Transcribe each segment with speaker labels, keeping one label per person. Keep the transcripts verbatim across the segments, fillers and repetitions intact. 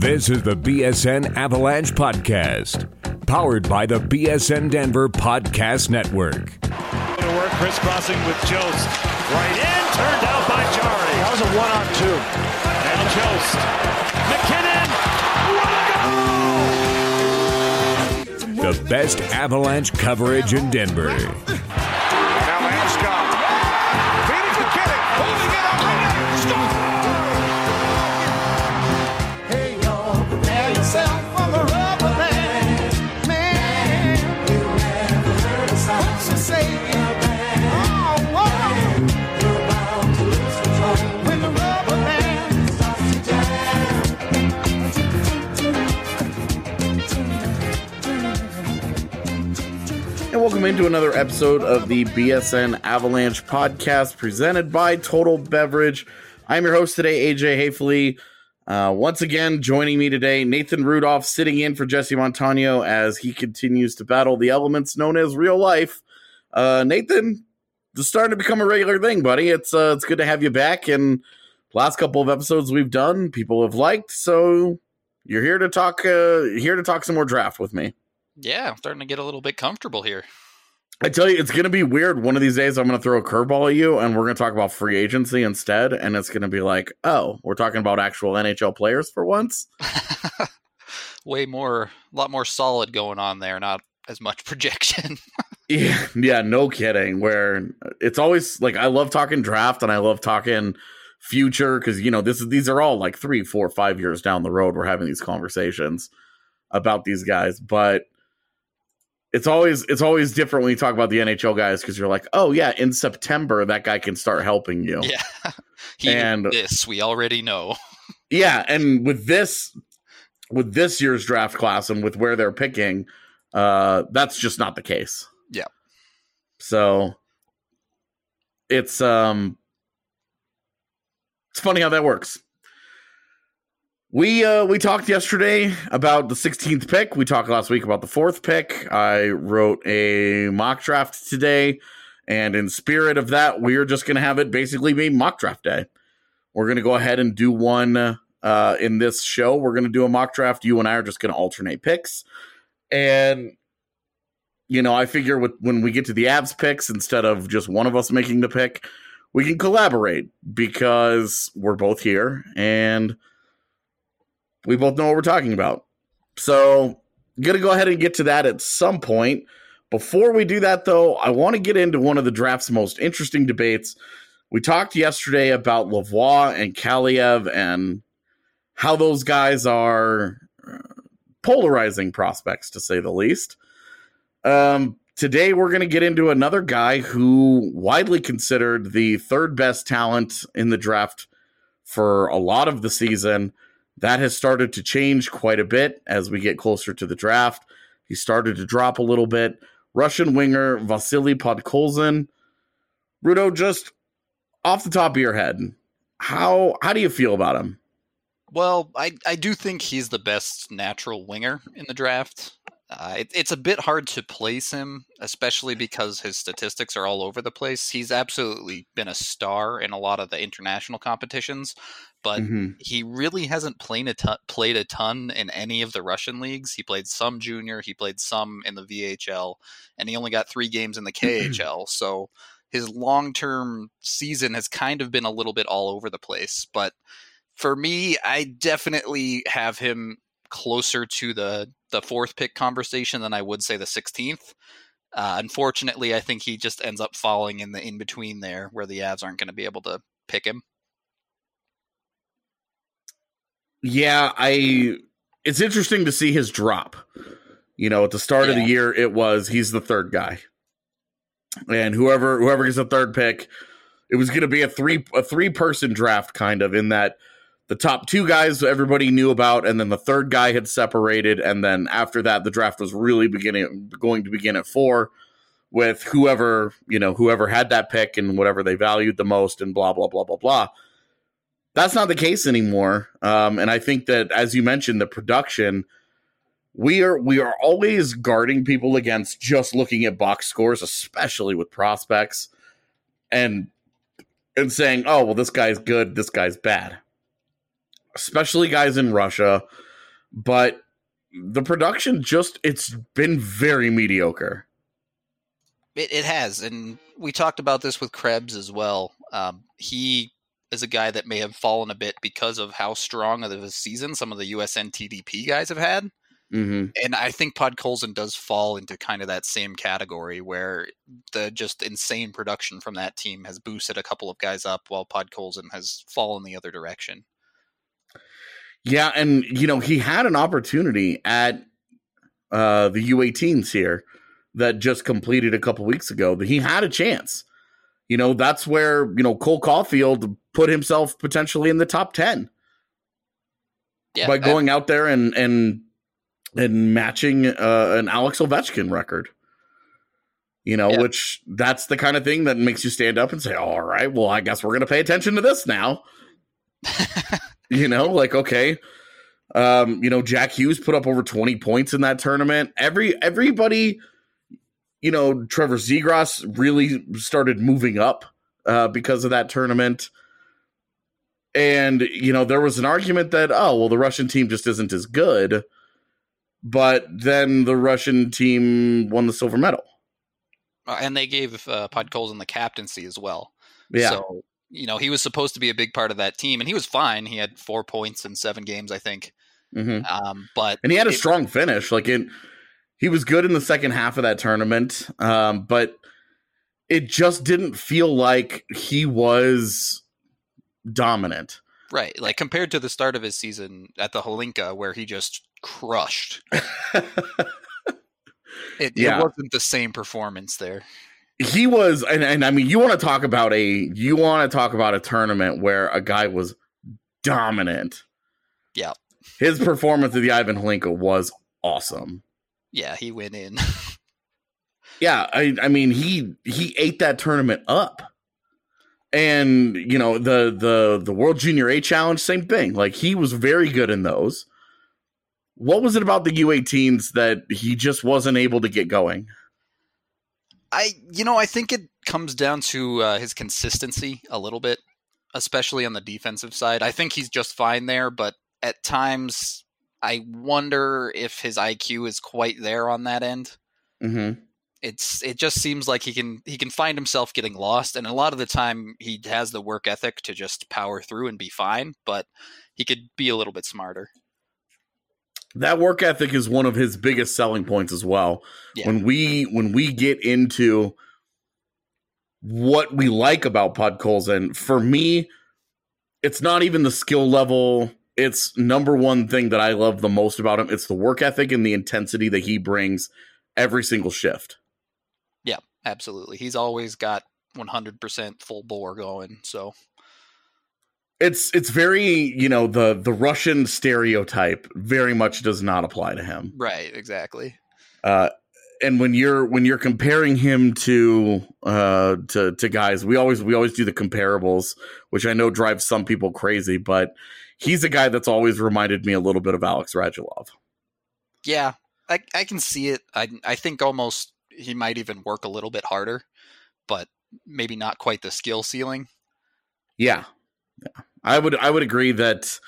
Speaker 1: This is the B S N Avalanche Podcast, powered by the B S N Denver Podcast Network.
Speaker 2: To work, crisscrossing with Jost. Right in, turned out by Jarry.
Speaker 3: That was a one-on-two.
Speaker 2: And Jost. McKinnon. What a goal!
Speaker 1: The best Avalanche coverage in Denver.
Speaker 3: Now Landeskog. Feeding McKinnon. Holding it up and net. Score! Hey, y'all, prepare yourself for the rubber band. Man, you never heard a sound so say it. Oh, whoa. You're bound to lose control when the rubber band starts to jam.
Speaker 4: And welcome into another episode of the B S N Avalanche Podcast presented by Total Beverage. I'm your host today, A J Hayfley. Uh, once again, joining me today, Nathan Rudolph, sitting in for Jesse Montano as he continues to battle the elements known as real life. Uh, Nathan, it's starting to become a regular thing, buddy. It's uh, it's good to have you back. And the last couple of episodes we've done, people have liked. So you're here to talk. Uh, here to talk some more draft with me.
Speaker 5: Yeah, I'm starting to get a little bit comfortable here.
Speaker 4: I tell you, it's going to be weird. One of these days, I'm going to throw a curveball at you, and we're going to talk about free agency instead. And it's going to be like, oh, we're talking about actual N H L players for once.
Speaker 5: Way more, a lot more solid going on there, not as much projection.
Speaker 4: yeah, yeah, no kidding. Where it's always like, I love talking draft, and I love talking future because, you know, this is these are all like three, four, five years down the road. We're having these conversations about these guys, but It's always it's always different when you talk about the N H L guys because you're like, oh yeah, in September that guy can start helping you.
Speaker 5: Yeah, he and this we already know.
Speaker 4: Yeah, and with this with this year's draft class and with where they're picking, uh, that's just not the case.
Speaker 5: Yeah.
Speaker 4: So it's um it's funny how that works. We uh, we talked yesterday about the sixteenth pick. We talked last week about the fourth pick. I wrote a mock draft today, and in spirit of that, we are just going to have it basically be mock draft day. We're going to go ahead and do one uh, in this show. We're going to do a mock draft. You and I are just going to alternate picks. And, you know, I figure with, when we get to the Avs picks, instead of just one of us making the pick, we can collaborate because we're both here and we both know what we're talking about. So I'm going to go ahead and get to that at some point. Before we do that, though, I want to get into one of the draft's most interesting debates. We talked yesterday about Lavoie and Kaliev and how those guys are polarizing prospects, to say the least. Um, today, we're going to get into another guy who widely considered the third best talent in the draft for a lot of the season. That has started to change quite a bit as we get closer to the draft. He started to drop a little bit. Russian winger Vasily Podkolzin. Rudo, just off the top of your head, how how do you feel about him?
Speaker 5: Well, I, I do think he's the best natural winger in the draft. Uh, it, it's a bit hard to place him, especially because his statistics are all over the place. He's absolutely been a star in a lot of the international competitions, but mm-hmm. he really hasn't played a, ton, played a ton in any of the Russian leagues. He played some junior, he played some in the V H L, and he only got three games in the K H L. So his long-term season has kind of been a little bit all over the place. But for me, I definitely have him closer to the the fourth pick conversation than I would say the sixteenth. Uh, unfortunately, I think he just ends up falling in the in between there where the Avs aren't going to be able to pick him.
Speaker 4: Yeah, I it's interesting to see his drop. You know, at the start yeah. of the year, it was he's the third guy. And whoever whoever gets the third pick, it was going to be a three a three person draft kind of in that the top two guys everybody knew about, and then the third guy had separated, and then after that, the draft was really beginning going to begin at four with whoever, you know, whoever had that pick and whatever they valued the most and blah, blah, blah, blah, blah. That's not the case anymore. Um, and I think that, as you mentioned, the production, we are we are always guarding people against just looking at box scores, especially with prospects, and and saying, oh, well, this guy's good, this guy's bad. Especially guys in Russia, but the production just, it's been very mediocre.
Speaker 5: It, it has, and we talked about this with Krebs as well. Um, he is a guy that may have fallen a bit because of how strong of a season some of the U S N T D P guys have had.
Speaker 4: Mm-hmm.
Speaker 5: And I think Podkolzin does fall into kind of that same category where the just insane production from that team has boosted a couple of guys up while Podkolzin has fallen the other direction.
Speaker 4: Yeah, and, you know, he had an opportunity at uh, the U eighteens here that just completed a couple weeks ago. That he had a chance. You know, that's where, you know, Cole Caulfield put himself potentially in the top ten. Yeah, by going I, out there and and and matching uh, an Alex Ovechkin record. You know, yeah. which that's the kind of thing that makes you stand up and say, all right, well, I guess we're going to pay attention to this now. You know, like, okay. Um, you know, Jack Hughes put up over twenty points in that tournament. Every everybody, you know, Trevor Zegras really started moving up uh, because of that tournament. And, you know, there was an argument that, oh, well, the Russian team just isn't as good. But then the Russian team won the silver medal.
Speaker 5: Uh, and they gave uh, Podkolzin the captaincy as well.
Speaker 4: Yeah.
Speaker 5: So, you know, he was supposed to be a big part of that team, and he was fine. He had four points in seven games, I think.
Speaker 4: Mm-hmm.
Speaker 5: Um, but
Speaker 4: and he had a
Speaker 5: it,
Speaker 4: strong finish. Like, it, he was good in the second half of that tournament, um, but it just didn't feel like he was dominant.
Speaker 5: Right. Like, compared to the start of his season at the Hlinka, where he just crushed. it,
Speaker 4: yeah.
Speaker 5: it wasn't the same performance there.
Speaker 4: He was, and, and I mean, you want to talk about a, you want to talk about a tournament where a guy was dominant.
Speaker 5: Yeah.
Speaker 4: His performance at the Ivan Hlinka was awesome.
Speaker 5: Yeah, he went in.
Speaker 4: yeah, I, I mean, he he ate that tournament up. And, you know, the the the World Junior A Challenge, same thing. Like, he was very good in those. What was it about the U eighteens that he just wasn't able to get going?
Speaker 5: I, you know, I think it comes down to uh, his consistency a little bit, especially on the defensive side. I think he's just fine there, but at times I wonder if his I Q is quite there on that end.
Speaker 4: Mm-hmm.
Speaker 5: It's it just seems like he can he can find himself getting lost, and a lot of the time he has the work ethic to just power through and be fine, but he could be a little bit smarter.
Speaker 4: That work ethic is one of his biggest selling points as well. Yeah. When we when we get into what we like about Podkolzin, for me, it's not even the skill level. It's number one thing that I love the most about him. It's the work ethic and the intensity that he brings every single shift.
Speaker 5: Yeah, absolutely. He's always got one hundred percent full bore going, so...
Speaker 4: It's it's very, you know, the the Russian stereotype very much does not apply to him.
Speaker 5: Right, exactly.
Speaker 4: Uh, and when you're when you're comparing him to uh to to guys, we always we always do the comparables, which I know drives some people crazy, but he's a guy that's always reminded me a little bit of Alex Radulov.
Speaker 5: Yeah, I I can see it. I I think almost he might even work a little bit harder, but maybe not quite the skill ceiling.
Speaker 4: Yeah. Yeah, I would I would agree that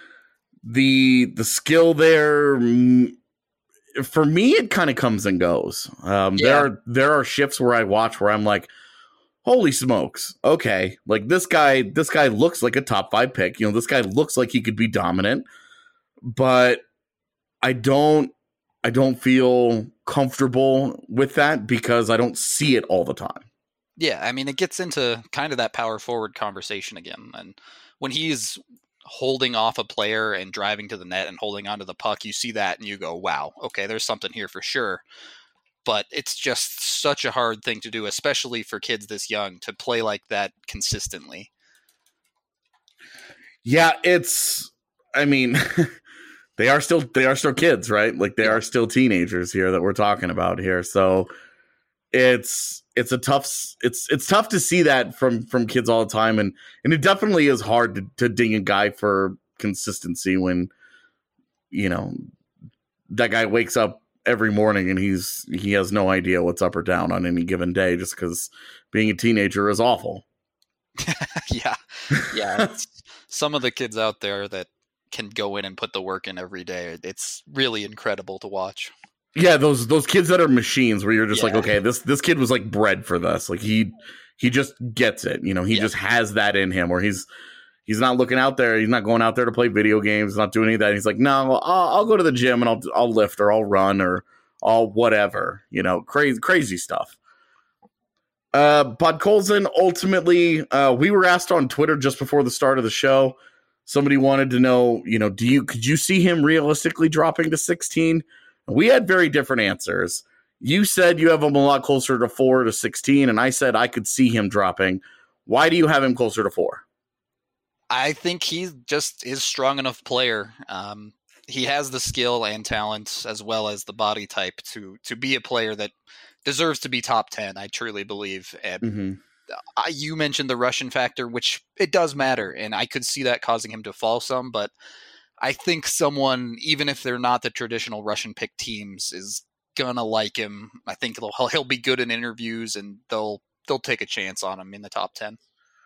Speaker 4: the the skill there, for me, it kind of comes and goes. Um, yeah. There are there are shifts where I watch where I'm like, holy smokes, okay, like this guy this guy looks like a top five pick. You know, this guy looks like he could be dominant, but I don't I don't feel comfortable with that because I don't see it all the time.
Speaker 5: Yeah, I mean, it gets into kind of that power forward conversation again. And when he's holding off a player and driving to the net and holding onto the puck, you see that and you go, wow, okay, there's something here for sure. But it's just such a hard thing to do, especially for kids this young, to play like that consistently.
Speaker 4: Yeah, it's, I mean, they are still, they are still kids, right? Like they yeah. are still teenagers here that we're talking about here. So it's, It's a tough. It's it's tough to see that from, from kids all the time, and, and it definitely is hard to, to ding a guy for consistency when, you know, that guy wakes up every morning and he's he has no idea what's up or down on any given day just because being a teenager is awful.
Speaker 5: yeah, yeah. Some of the kids out there that can go in and put the work in every day. It's really incredible to watch.
Speaker 4: Yeah, those those kids that are machines where you're just
Speaker 5: Yeah.
Speaker 4: like, okay, this this kid was like bred for this. Like he he just gets it. You know, he
Speaker 5: Yeah.
Speaker 4: just has that in him where he's he's not looking out there. He's not going out there to play video games, not doing any of that. He's like, no, I'll, I'll go to the gym and I'll I'll lift or I'll run or I'll whatever. You know, crazy crazy stuff. Uh, Podkolzin, ultimately, uh, we were asked on Twitter just before the start of the show. Somebody wanted to know, you know, do you could you see him realistically dropping to sixteen? We had very different answers. You said you have him a lot closer to four to sixteen, and I said I could see him dropping. Why do you have him closer to four?
Speaker 5: I think he just is strong enough player. Um, he has the skill and talent as well as the body type to to be a player that deserves to be top ten. I truly believe. And
Speaker 4: Mm-hmm.
Speaker 5: I, you mentioned the Russian factor, which it does matter, and I could see that causing him to fall some. But I think someone, even if they're not the traditional Russian pick teams, is gonna like him. I think he'll he'll be good in interviews, and they'll they'll take a chance on him in the top ten.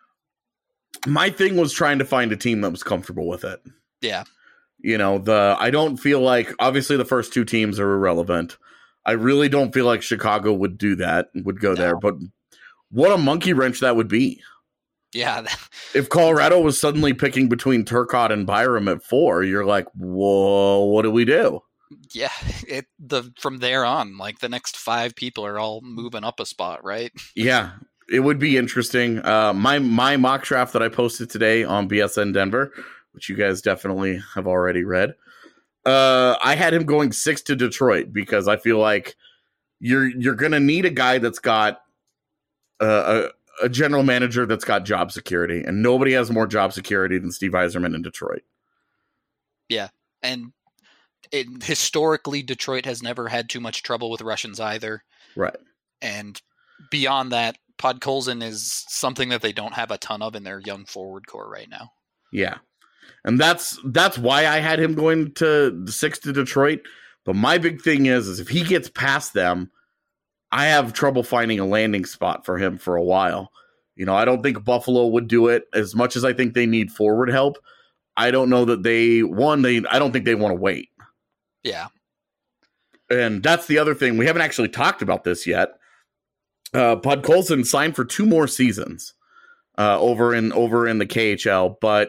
Speaker 4: My thing was trying to find a team that was comfortable with it.
Speaker 5: Yeah.
Speaker 4: You know, the I don't feel like, obviously the first two teams are irrelevant. I really don't feel like Chicago would do that, would go
Speaker 5: No.
Speaker 4: there. But what a monkey wrench that would be.
Speaker 5: Yeah.
Speaker 4: If Colorado was suddenly picking between Turcotte and Byram at four, you're like, whoa, what do we do?
Speaker 5: Yeah. It the from there on, like the next five people are all moving up a spot, right?
Speaker 4: Yeah, it would be interesting. Uh, my my mock draft that I posted today on B S N Denver, which you guys definitely have already read, uh, I had him going six to Detroit because I feel like you're you're gonna need a guy that's got uh, a a general manager that's got job security, and nobody has more job security than Steve Yzerman in Detroit.
Speaker 5: Yeah. And it, historically, Detroit has never had too much trouble with Russians either.
Speaker 4: Right.
Speaker 5: And beyond that, Podkolzin is something that they don't have a ton of in their young forward core right now.
Speaker 4: Yeah. And that's that's why I had him going to six to Detroit. But my big thing is, is if he gets past them, I have trouble finding a landing spot for him for a while. You know, I don't think Buffalo would do it as much as I think they need forward help. I don't know that they, one, they I don't think they want to wait.
Speaker 5: Yeah.
Speaker 4: And that's the other thing. We haven't actually talked about this yet. Uh, Podkolzin signed for two more seasons uh, over in over in the K H L, but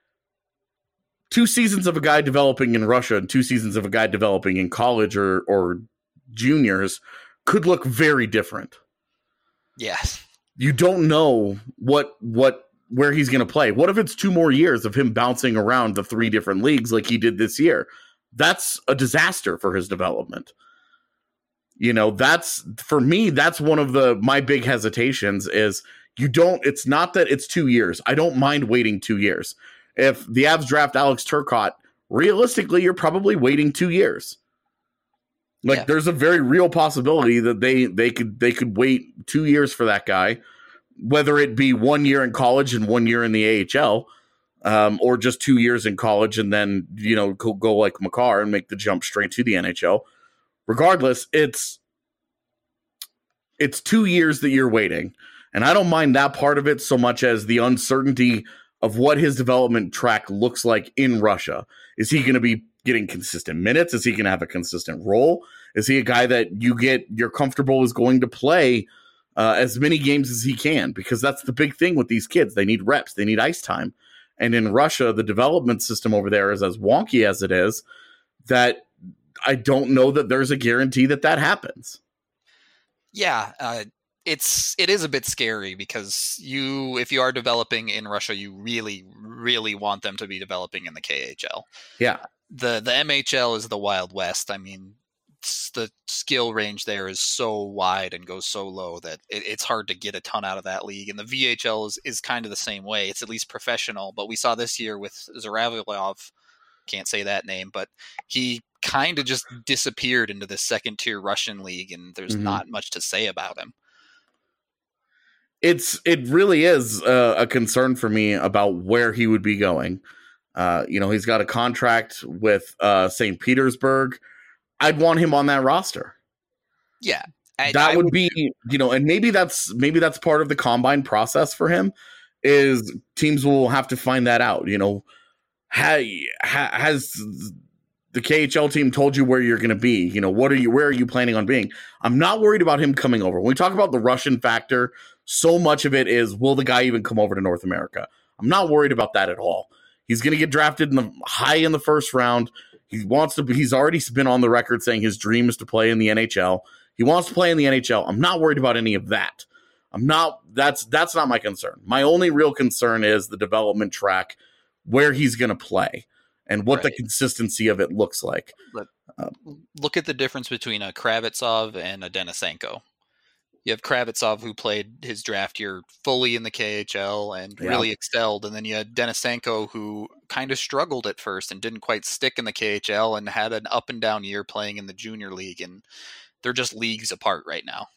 Speaker 4: two seasons of a guy developing in Russia and two seasons of a guy developing in college or or juniors could look very different.
Speaker 5: Yes.
Speaker 4: You don't know what what where he's going to play. What if it's two more years of him bouncing around the three different leagues like he did this year? That's a disaster for his development. You know, that's for me, that's one of the my big hesitations is you don't it's not that it's two years. I don't mind waiting two years. If the Avs draft Alex Turcotte, realistically, you're probably waiting two years. Like
Speaker 5: Yeah.
Speaker 4: there's a very real possibility that they they could they could wait two years for that guy, whether it be one year in college and one year in the A H L, um, or just two years in college and then, you know, go, go like Makar and make the jump straight to the N H L. Regardless, it's it's two years that you're waiting. And I don't mind that part of it so much as the uncertainty of what his development track looks like in Russia. Is he going to be getting consistent minutes? Is he going to have a consistent role? Is he a guy that you get, you're comfortable is going to play uh, as many games as he can? Because that's the big thing with these kids. They need reps. They need ice time. And in Russia, the development system over there is as wonky as it is that I don't know that there's a guarantee that that happens.
Speaker 5: Yeah. Uh, it's, it is a bit scary because you, if you are developing in Russia, you really, really want them to be developing in the K H L.
Speaker 4: Yeah.
Speaker 5: The, the M H L is the Wild West. I mean, it's, the skill range there is so wide and goes so low that it, it's hard to get a ton out of that league. And the V H L is, is kind of the same way. It's at least professional, but we saw this year with Zhuravlyov, can't say that name, but he kind of just disappeared into the second tier Russian league, and there's
Speaker 4: Mhm.
Speaker 5: not much to say about him.
Speaker 4: It's it really is uh, a concern for me about where he would be going. Uh, you know, he's got a contract with uh, Saint Petersburg. I'd want him on that roster.
Speaker 5: Yeah, I,
Speaker 4: that
Speaker 5: I
Speaker 4: would be, you know, and maybe that's maybe that's part of the combine process for him. Is teams will have to find that out. You know, ha, ha, has the K H L team told you where you're going to be? You know, what are you, where are you planning on being? I'm not worried about him coming over. When we talk about the Russian factor, so much of it is, will the guy even come over to North America? I'm not worried about that at all. He's going to get drafted in the high in the first round. He wants to. He's already been on the record saying his dream is to play in the N H L. He wants to play in the N H L. I'm not worried about any of that. I'm not. That's that's not my concern. My only real concern is the development track, where he's going to play, and what right. the consistency of it looks like.
Speaker 5: But um, look at the difference between a Kravitsov and a Denisenko. You have Kravitsov, who played his draft year fully in the K H L and yeah. really excelled. And then you had Denisenko, who kind of struggled at first and didn't quite stick in the K H L and had an up and down year playing in the junior league. And they're just leagues apart right now.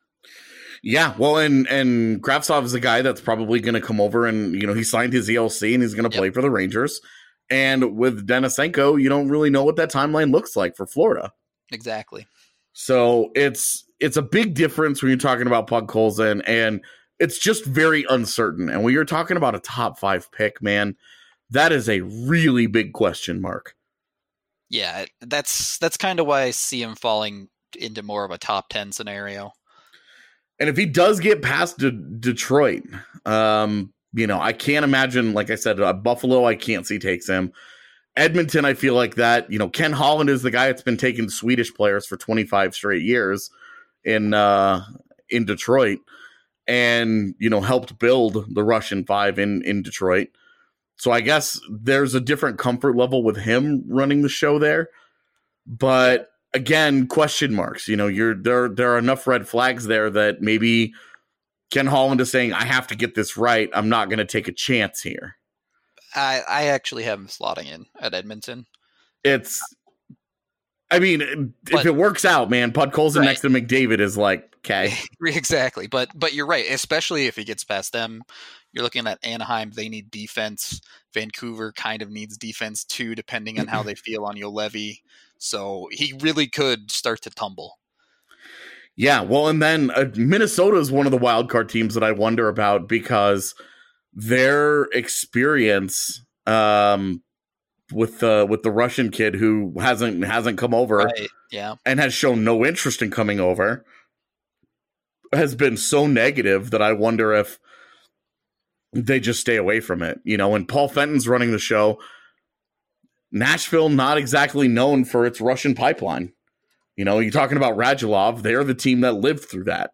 Speaker 4: Yeah, well, and, and Kravitsov is a guy that's probably going to come over and, you know, he signed his E L C and he's going to yep. play for the Rangers. And with Denisenko, you don't really know what that timeline looks like for Florida.
Speaker 5: Exactly.
Speaker 4: So it's it's a big difference when you're talking about Podkolzin, and it's just very uncertain. And when you're talking about a top five pick, man, that is a really big question mark.
Speaker 5: Yeah, that's that's kind of why I see him falling into more of a top ten scenario.
Speaker 4: And if he does get past De- Detroit, um, you know, I can't imagine, like I said, uh, Buffalo, I can't see takes him. Edmonton, I feel like that, you know, Ken Holland is the guy that's been taking Swedish players for twenty-five straight years in uh, in Detroit, and, you know, helped build the Russian five in, in Detroit. So I guess there's a different comfort level with him running the show there. But again, question marks, you know, you're there, there are enough red flags there that maybe Ken Holland is saying, I have to get this right. I'm not going to take a chance here.
Speaker 5: I, I actually have him slotting in at Edmonton.
Speaker 4: It's, I mean,
Speaker 5: but,
Speaker 4: if it works out, man, Podkolzin right. next to McDavid is like, okay.
Speaker 5: Exactly. But, but you're right. Especially if he gets past them, you're looking at Anaheim. They need defense. Vancouver kind of needs defense too, depending on how they feel on Juolevi. So he really could start to tumble.
Speaker 4: Yeah. Well, and then uh, Minnesota is one of the wild card teams that I wonder about, because their experience um, with the with the Russian kid who hasn't hasn't come over,
Speaker 5: right. yeah,
Speaker 4: and has shown no interest in coming over, has been so negative that I wonder if they just stay away from it. You know, and Paul Fenton's running the show. Nashville, not exactly known for its Russian pipeline. You know, you're talking about Radulov. They're the team that lived through that.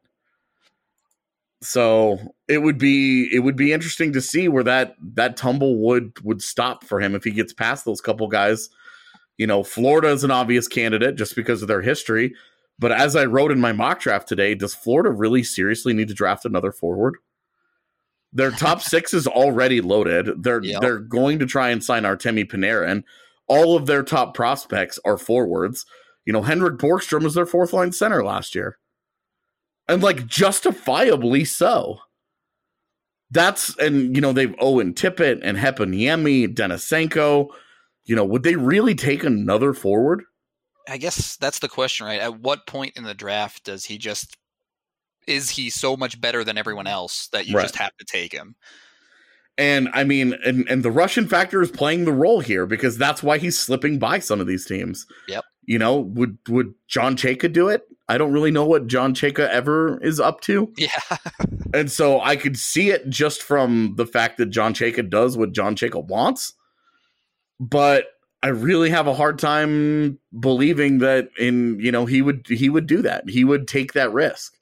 Speaker 4: So it would be it would be interesting to see where that that tumble would would stop for him if he gets past those couple guys. You know, Florida is an obvious candidate just because of their history. But as I wrote in my mock draft today, does Florida really seriously need to draft another forward? Their top six is already loaded. They're yep. they're going to try and sign Artemi Panarin. All of their top prospects are forwards. You know, Henrik Borgstrom was their fourth line center last year. And, like, justifiably so. That's, and, you know, they've Owen Tippett and Heponiemi, Denisenko. You know, would they really take another forward?
Speaker 5: I guess that's the question, right? At what point in the draft does he just, is he so much better than everyone else that you right. just have to take him?
Speaker 4: And, I mean, and, and the Russian factor is playing the role here, because that's why he's slipping by some of these teams.
Speaker 5: Yep.
Speaker 4: You know, would would John Chayka do it? I don't really know what John Chayka ever is up to.
Speaker 5: Yeah.
Speaker 4: And so I could see it just from the fact that John Chayka does what John Chayka wants. But I really have a hard time believing that in, you know, he would he would do that. He would take that risk.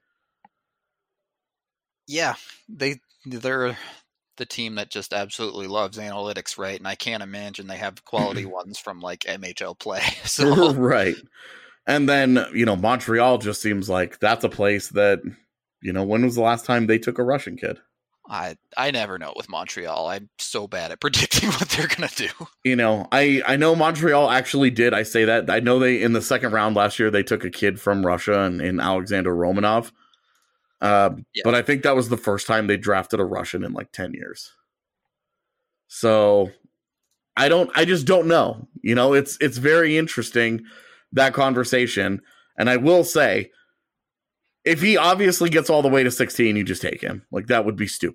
Speaker 5: Yeah. They they're the team that just absolutely loves analytics, right? And I can't imagine they have quality ones from like M H L play. So
Speaker 4: right. And then, you know, Montreal just seems like that's a place that, you know, when was the last time they took a Russian kid?
Speaker 5: I I never know with Montreal. I'm so bad at predicting what they're going to do.
Speaker 4: You know, I, I know Montreal actually did. I say that. I know they, in the second round last year, they took a kid from Russia and in Alexander Romanov. Uh, yeah. But I think that was the first time they drafted a Russian in like ten years. So I don't, I just don't know. You know, it's, it's very interesting, that conversation. And I will say, if he obviously gets all the way to sixteen, you just take him. Like, that would be stupid.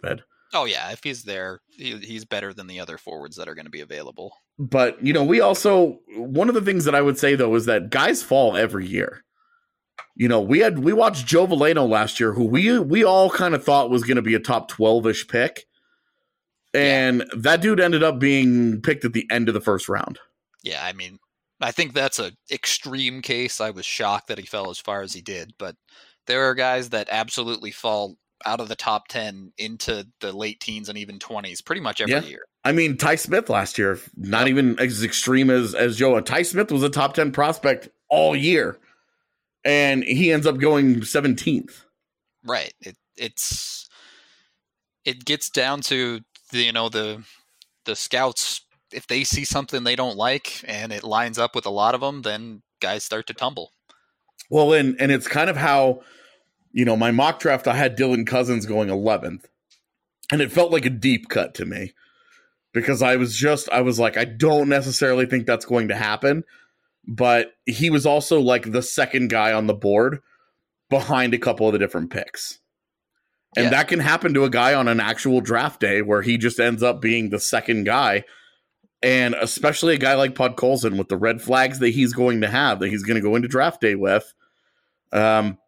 Speaker 5: Oh, yeah. If he's there, he, he's better than the other forwards that are going to be available.
Speaker 4: But, you know, we also, one of the things that I would say, though, is that guys fall every year. You know, we had, we watched Joe Veleno last year, who we, we all kind of thought was going to be a top twelve-ish pick. And yeah. that dude ended up being picked at the end of the first round.
Speaker 5: Yeah, I mean, I think that's an extreme case. I was shocked that he fell as far as he did, but there are guys that absolutely fall out of the top ten into the late teens and even twenties pretty much every yeah. year.
Speaker 4: I mean, Ty Smith last year, not yep. even as extreme as, as Joe. Ty Smith was a top ten prospect all year, and he ends up going seventeenth.
Speaker 5: Right. It, it's it gets down to the, you know, the the scouts. If they see something they don't like and it lines up with a lot of them, then guys start to tumble.
Speaker 4: Well, and and it's kind of how, you know, my mock draft, I had Dylan Cousins going eleventh, and it felt like a deep cut to me because I was just, I was like, I don't necessarily think that's going to happen, but he was also like the second guy on the board behind a couple of the different picks. And yeah. that can happen to a guy on an actual draft day where he just ends up being the second guy. And especially a guy like Podkolzin with the red flags that he's going to have, that he's going to go into draft day with. Um,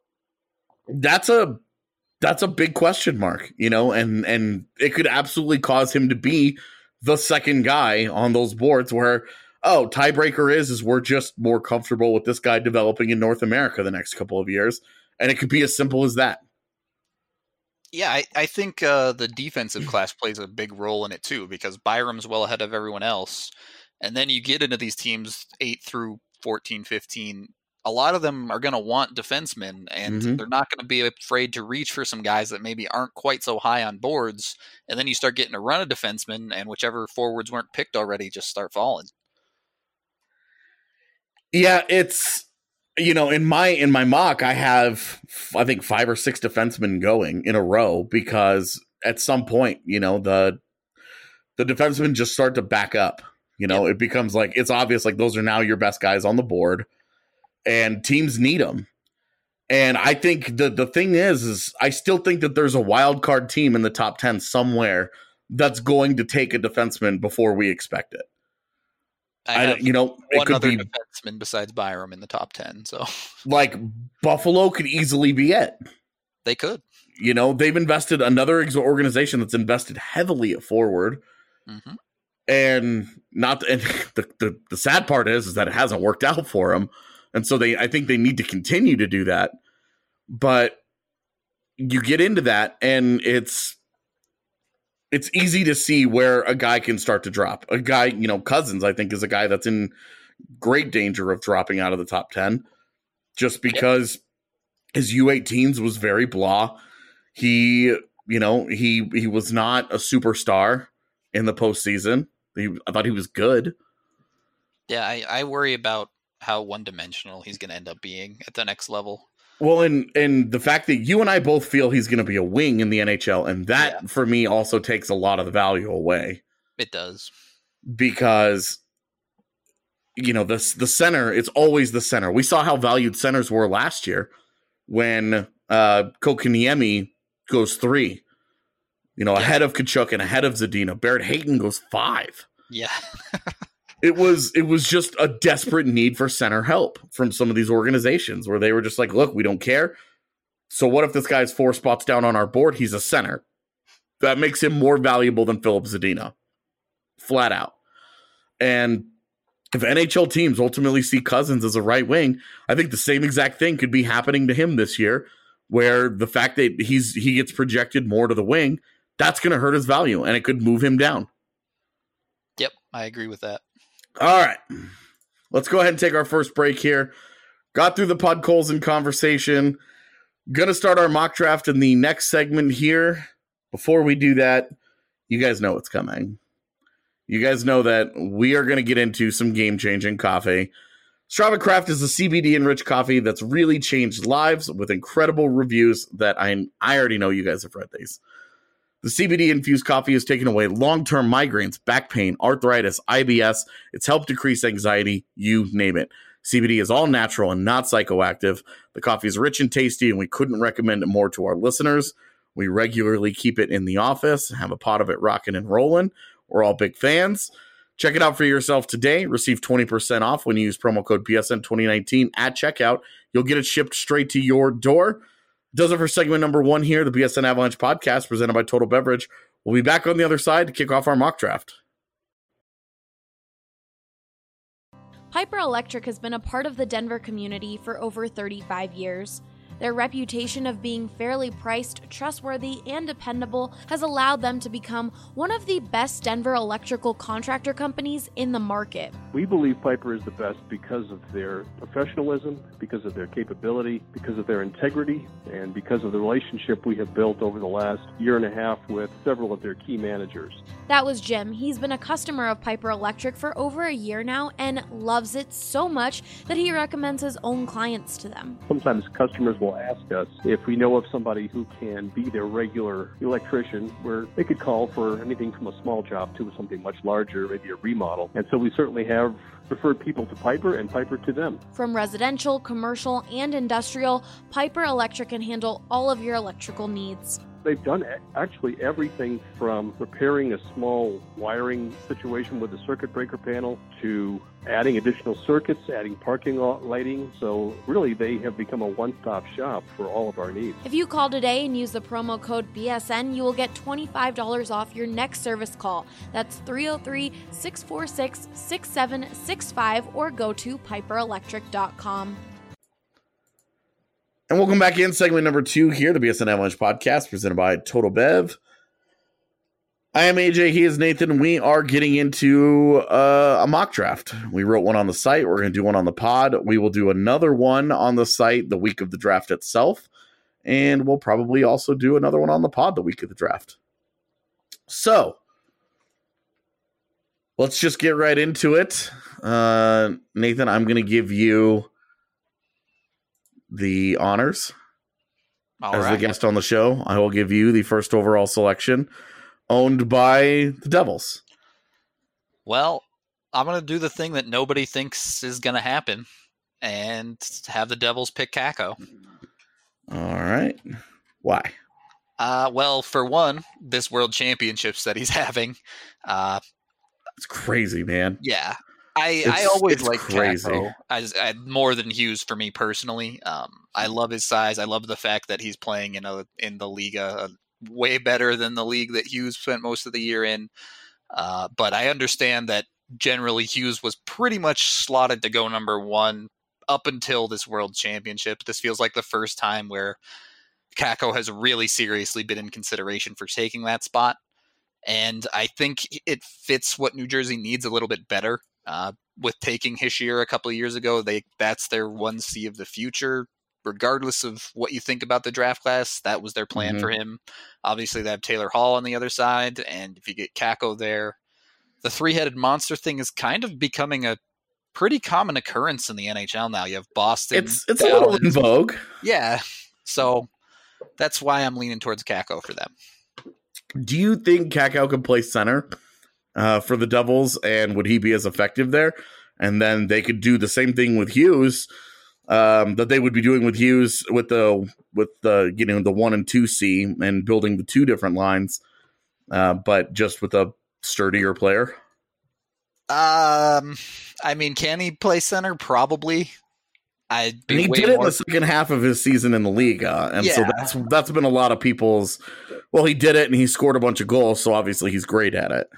Speaker 4: that's a that's a big question mark, you know, and and it could absolutely cause him to be the second guy on those boards where, oh, tiebreaker is is we're just more comfortable with this guy developing in North America the next couple of years. And it could be as simple as that.
Speaker 5: Yeah, I, I think uh, the defensive class plays a big role in it too, because Byram's well ahead of everyone else. And then you get into these teams eight through fourteen, fifteen. A lot of them are going to want defensemen, and mm-hmm. they're not going to be afraid to reach for some guys that maybe aren't quite so high on boards. And then you start getting a run of defensemen, and whichever forwards weren't picked already just start falling.
Speaker 4: Yeah, it's... You know, in my in my mock, I have, I think, five or six defensemen going in a row because at some point, you know, the the defensemen just start to back up. You know, yep. It becomes like, it's obvious, like those are now your best guys on the board and teams need them. And I think the, the thing is, is I still think that there's a wild card team in the top ten somewhere that's going to take a defenseman before we expect it.
Speaker 5: I,
Speaker 4: I you know, it
Speaker 5: one
Speaker 4: could
Speaker 5: other
Speaker 4: be
Speaker 5: defenseman besides Byram in the top ten. So,
Speaker 4: like Buffalo could easily be it.
Speaker 5: They could.
Speaker 4: You know, they've invested another organization that's invested heavily at forward,
Speaker 5: mm-hmm.
Speaker 4: and not. And the, the the sad part is, is that it hasn't worked out for them, and so they. I think they need to continue to do that. But you get into that, and it's. It's easy to see where a guy can start to drop. A guy, you know, Cousins, I think, is a guy that's in great danger of dropping out of the top ten just because yep. his U eighteens was very blah. He, you know, he he was not a superstar in the postseason. He, I thought he was good.
Speaker 5: Yeah, I, I worry about how one-dimensional he's going to end up being at the next level.
Speaker 4: Well, and and the fact that you and I both feel he's going to be a wing in the N H L, and that, yeah. for me, also takes a lot of the value away.
Speaker 5: It does.
Speaker 4: Because, you know, the, the center, it's always the center. We saw how valued centers were last year when uh, Kotkaniemi goes three. You know, yeah. ahead of Tkachuk and ahead of Zadina. Barrett Hayton goes five.
Speaker 5: Yeah.
Speaker 4: It was it was just a desperate need for center help from some of these organizations where they were just like, look, we don't care. So what if this guy's four spots down on our board? He's a center. That makes him more valuable than Philip Zadina. Flat out. And if N H L teams ultimately see Cousins as a right wing, I think the same exact thing could be happening to him this year, where the fact that he's he gets projected more to the wing, that's going to hurt his value, and it could move him down.
Speaker 5: Yep, I agree with that.
Speaker 4: All right, let's go ahead and take our first break here. Got through the Podkolzin conversation. Going to start our mock draft in the next segment here. Before we do that, you guys know what's coming. You guys know that we are going to get into some game-changing coffee. Strava Craft is a C B D-enriched coffee that's really changed lives with incredible reviews that I, I already know you guys have read these. The C B D-infused coffee has taken away long-term migraines, back pain, arthritis, I B S. It's helped decrease anxiety, you name it. C B D is all natural and not psychoactive. The coffee is rich and tasty, and we couldn't recommend it more to our listeners. We regularly keep it in the office, have a pot of it rocking and rolling. We're all big fans. Check it out for yourself today. Receive twenty percent off when you use promo code B S N twenty nineteen at checkout. You'll get it shipped straight to your door. Does it for segment number one here, the B S N Avalanche podcast presented by Total Beverage. We'll be back on the other side to kick off our mock draft.
Speaker 6: Piper Electric has been a part of the Denver community for over thirty-five years. Their reputation of being fairly priced, trustworthy, and dependable has allowed them to become one of the best Denver electrical contractor companies in the market.
Speaker 7: We believe Piper is the best because of their professionalism, because of their capability, because of their integrity, and because of the relationship we have built over the last year and a half with several of their key managers.
Speaker 6: That was Jim. He's been a customer of Piper Electric for over a year now and loves it so much that he recommends his own clients to them.
Speaker 7: Sometimes customers will ask us if we know of somebody who can be their regular electrician, where they could call for anything from a small job to something much larger, maybe a remodel. And so we certainly have referred people to Piper and Piper to them.
Speaker 6: From residential, commercial, and industrial, Piper Electric can handle all of your electrical needs.
Speaker 7: They've done actually everything from repairing a small wiring situation with a circuit breaker panel to adding additional circuits, adding parking lot lighting. So really, they have become a one-stop shop for all of our needs.
Speaker 6: If you call today and use the promo code B S N, you will get twenty-five dollars off your next service call. That's three oh three, six four six, six seven six five or go to piper electric dot com.
Speaker 4: And welcome back in segment number two here, the B S N Avalanche podcast presented by Total Bev. I am A J. He is Nathan. We are getting into uh, a mock draft. We wrote one on the site. We're going to do one on the pod. We will do another one on the site the week of the draft itself. And we'll probably also do another one on the pod the week of the draft. So let's just get right into it. Uh, Nathan, I'm going to give you the honors. All as right. The guest on the show. I will give you the first overall selection, owned by the Devils.
Speaker 5: Well, I'm going to do the thing that nobody thinks is going to happen and have the Devils pick Kakko.
Speaker 4: All right. Why?
Speaker 5: Uh, well, for one, this World Championships that he's having. Uh,
Speaker 4: it's crazy, man.
Speaker 5: Yeah. I, I always like Kakko as, as more than Hughes for me personally. Um, I love his size. I love the fact that he's playing in a in the Liga uh, way better than the league that Hughes spent most of the year in. Uh, but I understand that generally Hughes was pretty much slotted to go number one up until this World Championship. This feels like the first time where Kakko has really seriously been in consideration for taking that spot. And I think it fits what New Jersey needs a little bit better. Uh, with taking Hischier a couple of years ago, they that's their one C of the future. Regardless of what you think about the draft class, that was their plan mm-hmm. for him. Obviously, they have Taylor Hall on the other side, and if you get Kakko there, the three-headed monster thing is kind of becoming a pretty common occurrence in the N H L now. You have Boston.
Speaker 4: It's it's Dallas. A little in vogue.
Speaker 5: Yeah, so that's why I'm leaning towards Kakko for them.
Speaker 4: Do you think Kakko could play center Uh, for the Devils, and would he be as effective there? And then they could do the same thing with Hughes um, that they would be doing with Hughes with the with the you know the one and two C and building the two different lines, uh, but just with a sturdier player.
Speaker 5: Um, I mean, can he play center? Probably. I'd be
Speaker 4: and he
Speaker 5: way
Speaker 4: did it
Speaker 5: more...
Speaker 4: in the second half of his season in the league, uh, and
Speaker 5: yeah.
Speaker 4: so that's that's been a lot of people's. Well, he did it, and he scored a bunch of goals, so obviously he's great at it.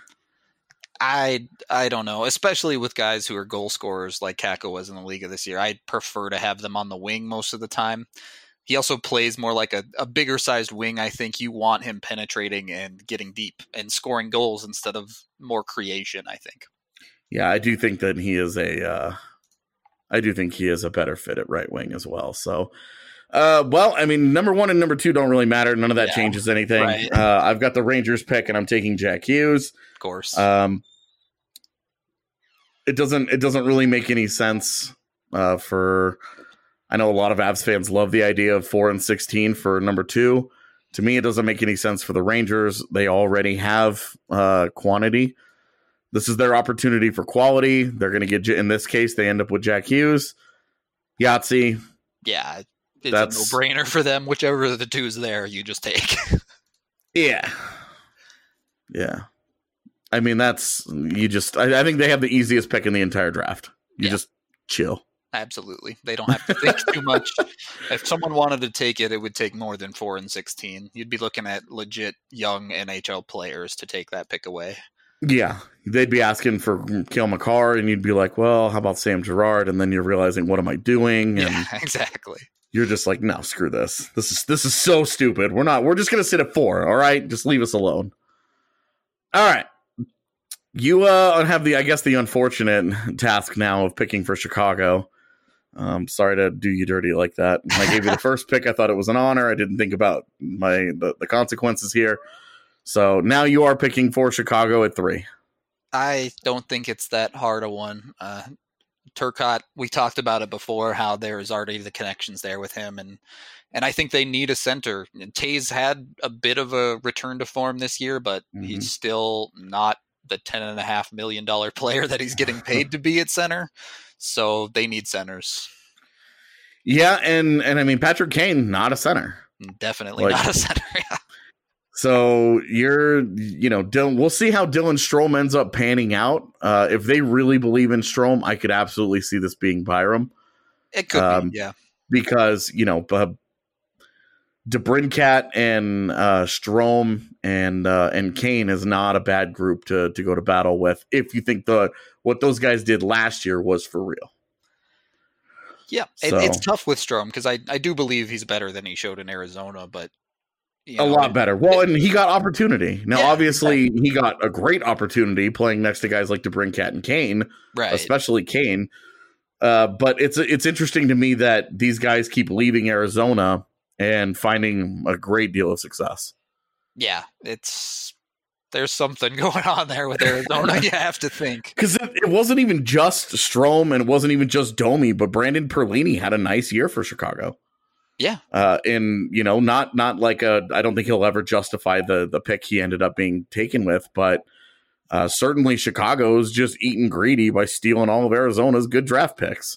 Speaker 5: I I don't know, especially with guys who are goal scorers like Kakko was in the league this year. I'd prefer to have them on the wing most of the time. He also plays more like a, a bigger sized wing. I think you want him penetrating and getting deep and scoring goals instead of more creation, I think.
Speaker 4: Yeah, I do think that he is a uh, I do think he is a better fit at right wing as well. So Uh, well, I mean, number one and number two don't really matter. None of that yeah, changes anything. Right. Uh, I've got the Rangers pick, and I'm taking Jack Hughes.
Speaker 5: Of course.
Speaker 4: Um, it doesn't. It doesn't really make any sense. Uh, for I know a lot of Avs fans love the idea of four and sixteen for number two. To me, it doesn't make any sense for the Rangers. They already have uh, quantity. This is their opportunity for quality. They're going to get, in this case, they end up with Jack Hughes, Yahtzee.
Speaker 5: Yeah. it's
Speaker 4: That's
Speaker 5: a no-brainer for them. Whichever of the two is there, you just take.
Speaker 4: yeah, yeah. I mean, that's you just. I, I think they have the easiest pick in the entire draft. You
Speaker 5: Yeah.
Speaker 4: just chill.
Speaker 5: Absolutely. They don't have to think too much. If someone wanted to take it, it would take more than four and sixteen. You'd be looking at legit young N H L players to take that pick away.
Speaker 4: Yeah, they'd be asking for Cale Makar, and you'd be like, "Well, how about Sam Girard?" And then you're realizing, "What am I doing?" And
Speaker 5: Yeah, exactly.
Speaker 4: you're just like, "No, screw this. This is this is so stupid. We're not. We're just gonna sit at four. All right, just leave us alone." All right. You uh, have the, I guess, the unfortunate task now of picking for Chicago. Um, sorry to do you dirty like that. When I gave you the first pick, I thought it was an honor. I didn't think about my the, the consequences here. So now you are picking for Chicago at three.
Speaker 5: I don't think it's that hard a one. Uh, Turcotte, we talked about it before, how there's already the connections there with him, and and I think they need a center. And Tays had a bit of a return to form this year, but
Speaker 4: Mhm.
Speaker 5: he's still not the ten and a half million dollar player that he's getting paid to be at center. So they need centers.
Speaker 4: Yeah, and and I mean Patrick Kane, not a center.
Speaker 5: Definitely
Speaker 4: Like-
Speaker 5: not a center.
Speaker 4: So you're, you know, Dylan, we'll see how Dylan Strome ends up panning out. Uh, if they really believe in Strome, I could absolutely see this being Byram.
Speaker 5: It could
Speaker 4: Um,
Speaker 5: be, yeah.
Speaker 4: Because, you know, uh, DeBrincat and uh, Strome and uh, and Kane is not a bad group to to go to battle with if you think the what those guys did last year was for real.
Speaker 5: Yeah, it,
Speaker 4: So-
Speaker 5: it's tough with Strome because I, I do believe he's better than he showed in Arizona, but you
Speaker 4: A
Speaker 5: know,
Speaker 4: lot
Speaker 5: it-
Speaker 4: better. Well, and he got opportunity. Now,
Speaker 5: Yeah,
Speaker 4: obviously, he got a great opportunity playing next to guys like DeBrincat and Kane,
Speaker 5: right?
Speaker 4: especially Kane. Uh, but it's it's interesting to me that these guys keep leaving Arizona and finding a great deal of success.
Speaker 5: Yeah, it's there's something going on there with Arizona. You have to think.
Speaker 4: Because it, it wasn't even just Strome and it wasn't even just Domi, but Brandon Perlini had a nice year for Chicago.
Speaker 5: Yeah,
Speaker 4: Uh, and you know, not not like a. I don't think he'll ever justify the the pick he ended up being taken with, but uh, certainly Chicago's just eating greedy by stealing all of Arizona's good draft picks.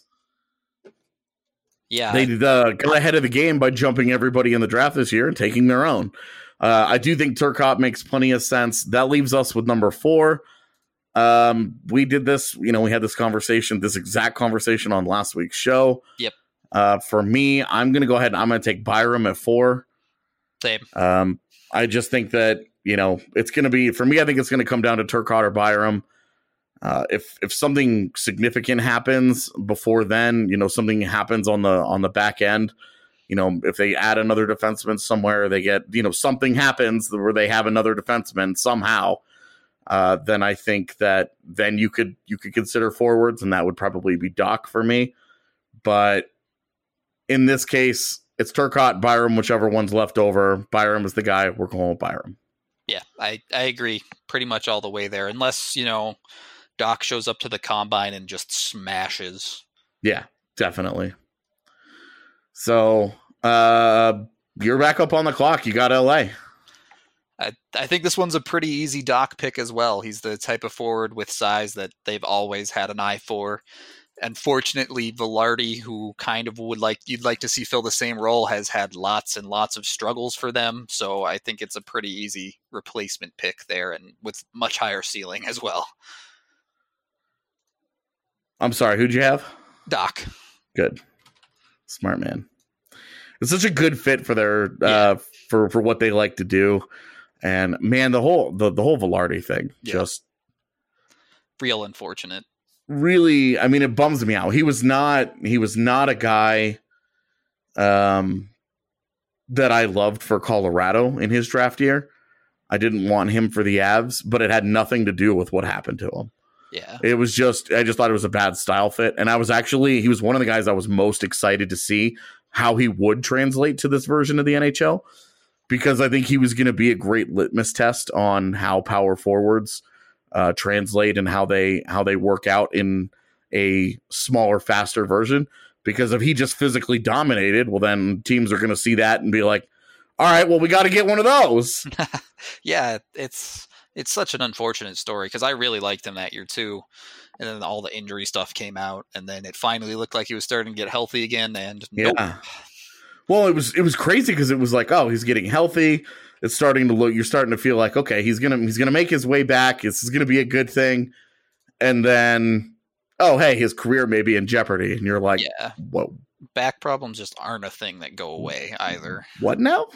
Speaker 5: yeah.
Speaker 4: They uh, got ahead of the game by jumping everybody in the draft this year and taking their own. Uh, I do think Turcotte makes plenty of sense. That leaves us with number four. Um, we did this, you know, we had this conversation, this exact conversation on last week's show.
Speaker 5: Yep.
Speaker 4: Uh, for me, I'm going to go ahead and I'm going to take Byram at four.
Speaker 5: Same.
Speaker 4: Um, I just think that, you know, it's going to be, for me, I think it's going to come down to Turcotte or Byram. Uh, if if something significant happens before then, you know, something happens on the on the back end, you know, if they add another defenseman somewhere, they get, you know, something happens where they have another defenseman somehow, uh, then I think that then you could you could consider forwards, and that would probably be Doc for me. But in this case, it's Turcotte, Byram, whichever one's left over. Byram is the guy. We're going with Byram.
Speaker 5: Yeah, I, I agree pretty much all the way there. Unless, you know, Doc shows up to the combine and just smashes.
Speaker 4: Yeah, definitely. So uh, you're back up on the clock. You got L A.
Speaker 5: I, I think this one's a pretty easy Doc pick as well. He's the type of forward with size that they've always had an eye for. Unfortunately, Velarde, who kind of would like you'd like to see fill the same role, has had lots and lots of struggles for them. So I think it's a pretty easy replacement pick there, and with much higher ceiling as well.
Speaker 4: I'm sorry, who'd you have?
Speaker 5: Doc.
Speaker 4: Good. Smart man. It's such a good fit for their
Speaker 5: Yeah.
Speaker 4: uh for for what they like to do. And man, the whole the, the whole Velarde thing
Speaker 5: Yeah.
Speaker 4: just
Speaker 5: Real unfortunate.
Speaker 4: really, I mean, it bums me out. He was not he was not a guy um that I loved for Colorado in his draft year. I didn't want him for the Avs, but it had nothing to do with what happened to him.
Speaker 5: Yeah.
Speaker 4: It was just, I just thought it was a bad style fit. And I was actually, he was one of the guys I was most excited to see how he would translate to this version of the N H L, because I think he was going to be a great litmus test on how power forwards uh, translate and how they, how they work out in a smaller, faster version. Because if he just physically dominated, well, then teams are going to see that and be like, all right, well, we got to get one of those.
Speaker 5: Yeah, it's it's such an unfortunate story because I really liked him that year too. And then all the injury stuff came out, and then it finally looked like he was starting to get healthy again. And
Speaker 4: Yeah.
Speaker 5: nope.
Speaker 4: Well, it was it was crazy because it was like, oh, he's getting healthy. It's starting to look. You're starting to feel like, okay, he's gonna he's gonna make his way back. This is gonna be a good thing. And then, oh, hey, his career may be in jeopardy, and you're like,
Speaker 5: Yeah.
Speaker 4: whoa,
Speaker 5: Back problems just aren't a thing that go away either.
Speaker 4: what now?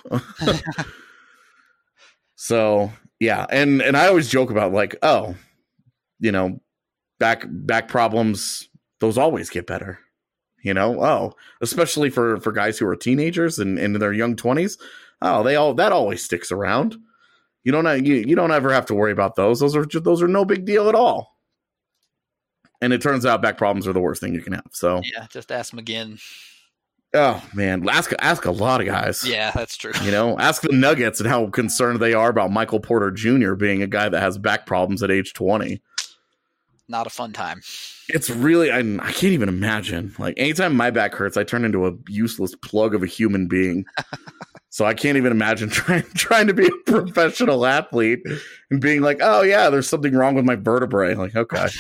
Speaker 4: So yeah, and and I always joke about like, oh, you know, back back problems, those always get better. You know, oh, especially for for guys who are teenagers and, and in their young twenties. Oh, they all that always sticks around. You don't you, you don't ever have to worry about those. Those are just, those are no big deal at all. And it turns out back problems are the worst thing you can have. So
Speaker 5: Yeah, just ask McGinn.
Speaker 4: oh man, ask ask a lot of guys.
Speaker 5: Yeah, that's true.
Speaker 4: You know, ask the Nuggets and how concerned they are about Michael Porter Junior being a guy that has back problems at age twenty.
Speaker 5: Not a fun time.
Speaker 4: It's really, I, I can't even imagine. Like, anytime my back hurts, I turn into a useless plug of a human being. So I can't even imagine trying trying to be a professional athlete and being like, oh yeah, there's something wrong with my vertebrae. Like, okay.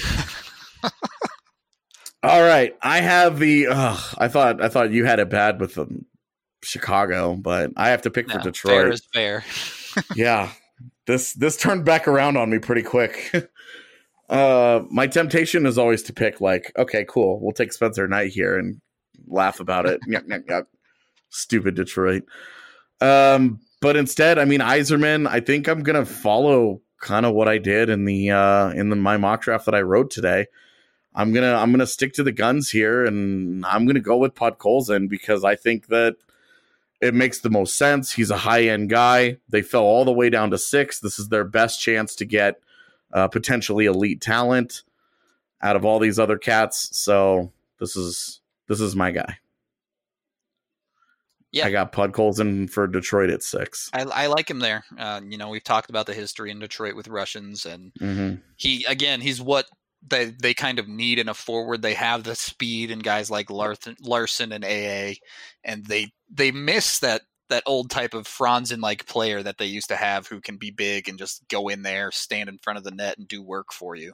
Speaker 4: All right, I have the. Uh, I thought I thought you had it bad with um, Chicago, but I have to pick
Speaker 5: No,
Speaker 4: for Detroit.
Speaker 5: fair is fair.
Speaker 4: Yeah, this this turned back around on me pretty quick. uh, my temptation is always to pick like, okay, cool, we'll take Spencer Knight here and laugh about it. Yuck, yuck, yuck. Stupid Detroit. Um, but instead, I mean, Yzerman. I think I'm gonna follow kind of what I did in the uh, in the, my mock draft that I wrote today. I'm gonna I'm gonna stick to the guns here, and I'm gonna go with Podkolzin because I think that it makes the most sense. He's a high end guy. They fell all the way down to six. This is their best chance to get uh, potentially elite talent out of all these other cats. So this is this is my guy.
Speaker 5: Yeah,
Speaker 4: I got Podkolzin for Detroit at six.
Speaker 5: I, I like him there. Uh, you know, we've talked about the history in Detroit with Russians, and
Speaker 4: Mm-hmm.
Speaker 5: he again, he's what they they kind of need in a forward. They have the speed and guys like Larson, Larson and A A, and they they miss that that old type of Franzen like player that they used to have who can be big and just go in there, stand in front of the net, and do work for you.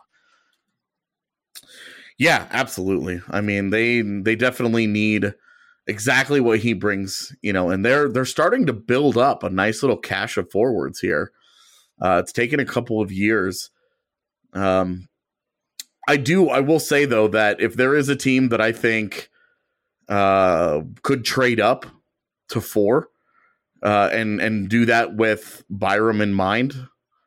Speaker 4: Yeah, absolutely. I mean, they they definitely need exactly what he brings, you know, and they're they're starting to build up a nice little cache of forwards here. Uh, it's taken a couple of years. Um, I do. I will say though that if there is a team that I think uh, could trade up to four uh, and and do that with Byram in mind,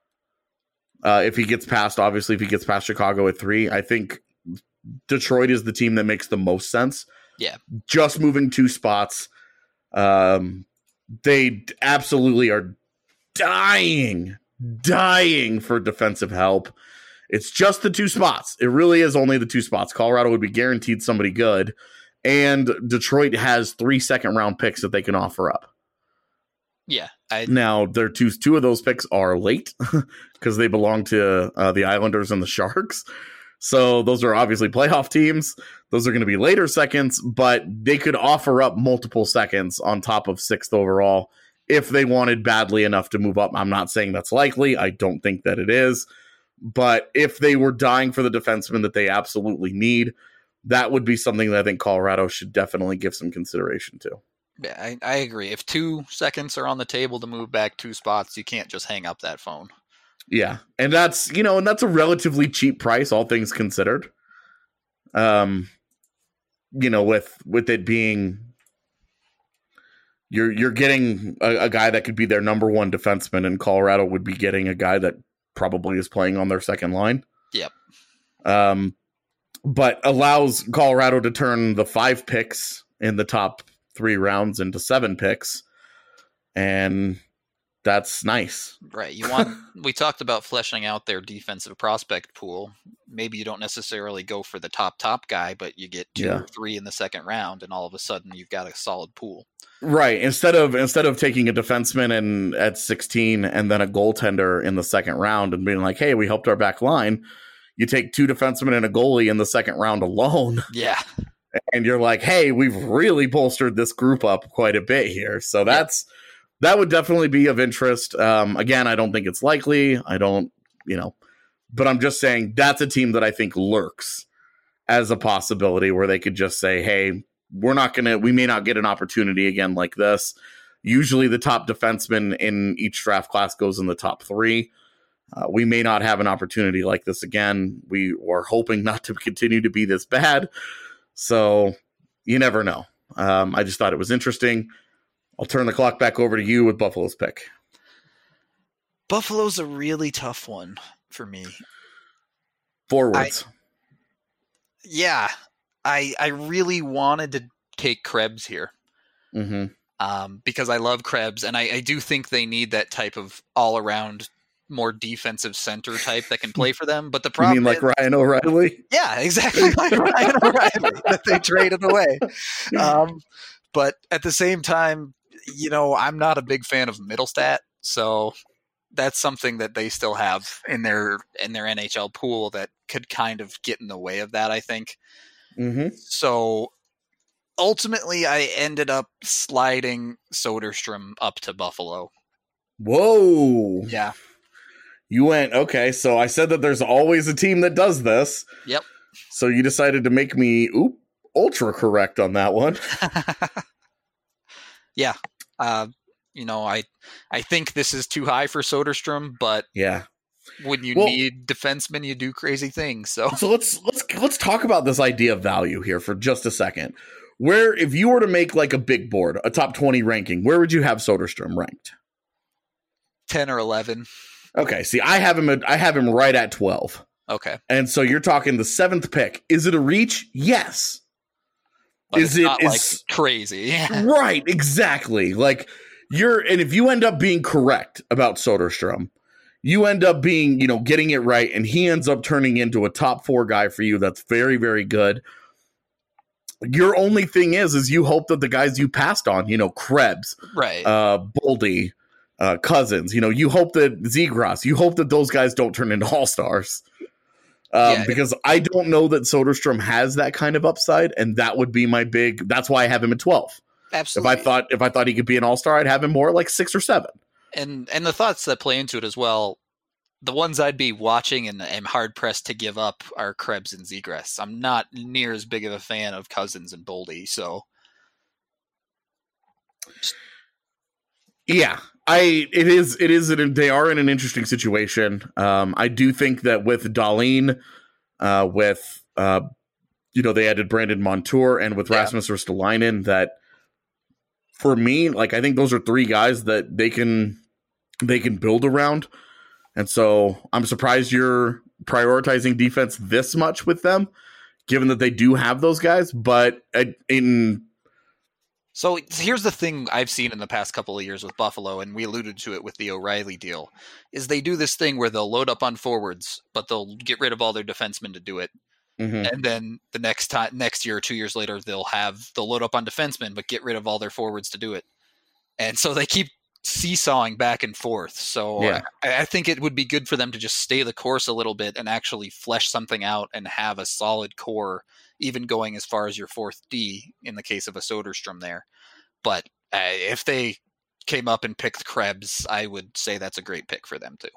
Speaker 4: uh, if he gets past, obviously, if he gets past Chicago at three, I think Detroit is the team that makes the most sense.
Speaker 5: Yeah,
Speaker 4: just moving two spots. Um, they absolutely are dying, dying for defensive help. It's just the two spots. It really is only the two spots. Colorado would be guaranteed somebody good, and Detroit has three second round picks that they can offer up.
Speaker 5: yeah. I,
Speaker 4: Now, their two two of those picks are late because they belong to uh, the Islanders and the Sharks. So those are obviously playoff teams. Those are going to be later seconds, but they could offer up multiple seconds on top of sixth overall if they wanted badly enough to move up. I'm not saying that's likely. I don't think that it is. But if they were dying for the defenseman that they absolutely need, that would be something that I think Colorado should definitely give some consideration to.
Speaker 5: yeah, I, I agree. If two seconds are on the table to move back two spots, you can't just hang up that phone.
Speaker 4: Yeah, and that's, you know, and that's a relatively cheap price, all things considered. Um, you know, with with it being you're you're getting a, a guy that could be their number one defenseman, and Colorado would be getting a guy that probably is playing on their second line.
Speaker 5: Yep.
Speaker 4: Um, but allows Colorado to turn the five picks in the top three rounds into seven picks, and that's nice.
Speaker 5: Right. You want we talked about fleshing out their defensive prospect pool. Maybe you don't necessarily go for the top top guy, but you get two
Speaker 4: Yeah.
Speaker 5: or three in the second round, and all of a sudden you've got a solid pool.
Speaker 4: Right. Instead of instead of taking a defenseman and at sixteen and then a goaltender in the second round and being like, hey, we helped our back line, you take two defensemen and a goalie in the second round alone.
Speaker 5: Yeah.
Speaker 4: And you're like, hey, we've really bolstered this group up quite a bit here. So that's that would definitely be of interest. Um, again, I don't think it's likely. I don't, you know, but I'm just saying that's a team that I think lurks as a possibility where they could just say, hey, we're not going to, we may not get an opportunity again like this. Usually the top defenseman in each draft class goes in the top three. Uh, we may not have an opportunity like this again. We are hoping not to continue to be this bad. So you never know. Um, I just thought it was interesting. I'll turn the clock back over to you with Buffalo's pick.
Speaker 5: Buffalo's a really tough one for me.
Speaker 4: Forwards.
Speaker 5: I, yeah. I I really wanted to take Krebs here.
Speaker 4: Mm-hmm.
Speaker 5: Um, because I love Krebs, and I, I do think they need that type of all-around, more defensive center type that can play for them. But the problem
Speaker 4: You mean like
Speaker 5: is,
Speaker 4: Ryan O'Reilly?
Speaker 5: yeah, exactly like Ryan O'Reilly that they traded away. Um, but at the same time, you know, I'm not a big fan of Middlestat, so that's something that they still have in their in their N H L pool that could kind of get in the way of that, I think.
Speaker 4: Mm-hmm.
Speaker 5: So ultimately, I ended up sliding Soderstrom up to Buffalo.
Speaker 4: Whoa.
Speaker 5: Yeah.
Speaker 4: You went, okay, so I said that there's always a team that does this.
Speaker 5: Yep.
Speaker 4: So you decided to make me oop, ultra correct on that one.
Speaker 5: yeah. Uh, you know, I I think this is too high for Soderstrom, but
Speaker 4: yeah.
Speaker 5: when you
Speaker 4: Well,
Speaker 5: need defensemen, you do crazy things. So
Speaker 4: So let's let's let's talk about this idea of value here for just a second. Where, if you were to make like a big board, a top twenty ranking, where would you have Soderstrom ranked?
Speaker 5: ten or eleven.
Speaker 4: Okay, see, I have him. At, I have him right at twelve.
Speaker 5: Okay,
Speaker 4: and so you're talking the seventh pick. Is it a reach? Yes.
Speaker 5: but
Speaker 4: is
Speaker 5: it's
Speaker 4: it
Speaker 5: not
Speaker 4: is
Speaker 5: like crazy?
Speaker 4: right? Exactly. Like you're, and if you end up being correct about Soderstrom, you end up being, you know, getting it right, and he ends up turning into a top four guy for you. That's very, very good. Your only thing is, is you hope that the guys you passed on, you know, Krebs,
Speaker 5: right,
Speaker 4: uh, Boldy, uh, Cousins, you know, you hope that Zegras, you hope that those guys don't turn into all-stars. Um,
Speaker 5: Yeah.
Speaker 4: because I don't know that Soderstrom has that kind of upside, and that would be my big, that's why I have him at twelve.
Speaker 5: absolutely.
Speaker 4: If I thought, if I thought he could be an all-star, I'd have him more like six or seven.
Speaker 5: and and the thoughts that play into it as well, the ones I'd be watching and am hard pressed to give up are Krebs and Zegras. I'm not near as big of a fan of Cousins and Boldy, so
Speaker 4: Yeah, I it is it is an, they are in an interesting situation. Um, I do think that with Dahlin, uh, with uh, you know, they added Brandon Montour, and with
Speaker 5: Yeah.
Speaker 4: Rasmus Ristolainen, that for me, like I think those are three guys that they can they can build around, and so I'm surprised you're prioritizing defense this much with them, given that they do have those guys. But uh, in
Speaker 5: So here's the thing I've seen in the past couple of years with Buffalo, and we alluded to it with the O'Reilly deal, is they do this thing where they'll load up on forwards, but they'll get rid of all their defensemen to do it.
Speaker 4: mhm.
Speaker 5: And then the next time, next year or two years later, they'll have they'll load up on defensemen, but get rid of all their forwards to do it. And so they keep seesawing back and forth. So
Speaker 4: Yeah.
Speaker 5: I, I think it would be good for them to just stay the course a little bit and actually flesh something out and have a solid core, even going as far as your fourth D in the case of a Soderstrom there. But uh, if they came up and picked Krebs, I would say that's a great pick for them too.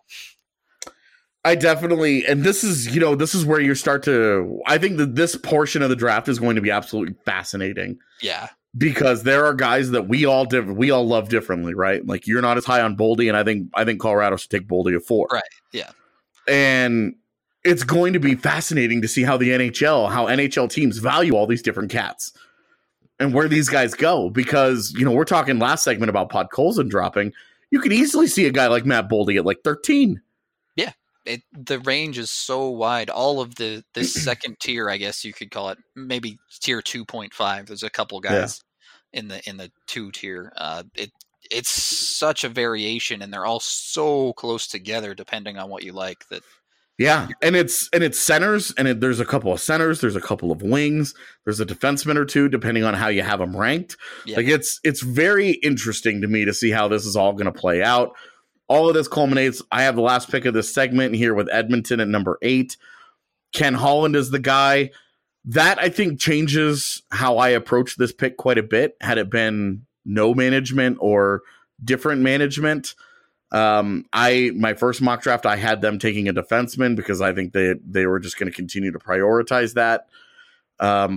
Speaker 4: I definitely, and this is, you know, this is where you start to, I think that this portion of the draft is going to be absolutely fascinating,
Speaker 5: Yeah.
Speaker 4: because there are guys that we all diff- we all love differently, right? Like you're not as high on Boldy, and I think I think Colorado should take Boldy at four.
Speaker 5: Right. Yeah.
Speaker 4: And it's going to be fascinating to see how the N H L, how N H L teams value all these different cats and where these guys go, because, you know, we're talking last segment about Podkolzin dropping. You could easily see a guy like Matt Boldy at like thirteen.
Speaker 5: It, the range is so wide. All of the this second tier, I guess you could call it, maybe tier two point five. There's a couple guys in the in the two tier. Uh, it it's such a variation, and they're all so close together, depending on what you like. That
Speaker 4: Yeah, and it's and it's centers, and it, there's a couple of centers, there's a couple of wings, there's a defenseman or two, depending on how you have them ranked.
Speaker 5: Yeah.
Speaker 4: Like it's it's very interesting to me to see how this is all going to play out. All of this culminates. I have the last pick of this segment here with Edmonton at number eight. Ken Holland is the guy. That I think changes how I approach this pick quite a bit. Had it been no management or different management. Um, I my first mock draft, I had them taking a defenseman because I think they they were just going to continue to prioritize that. Um,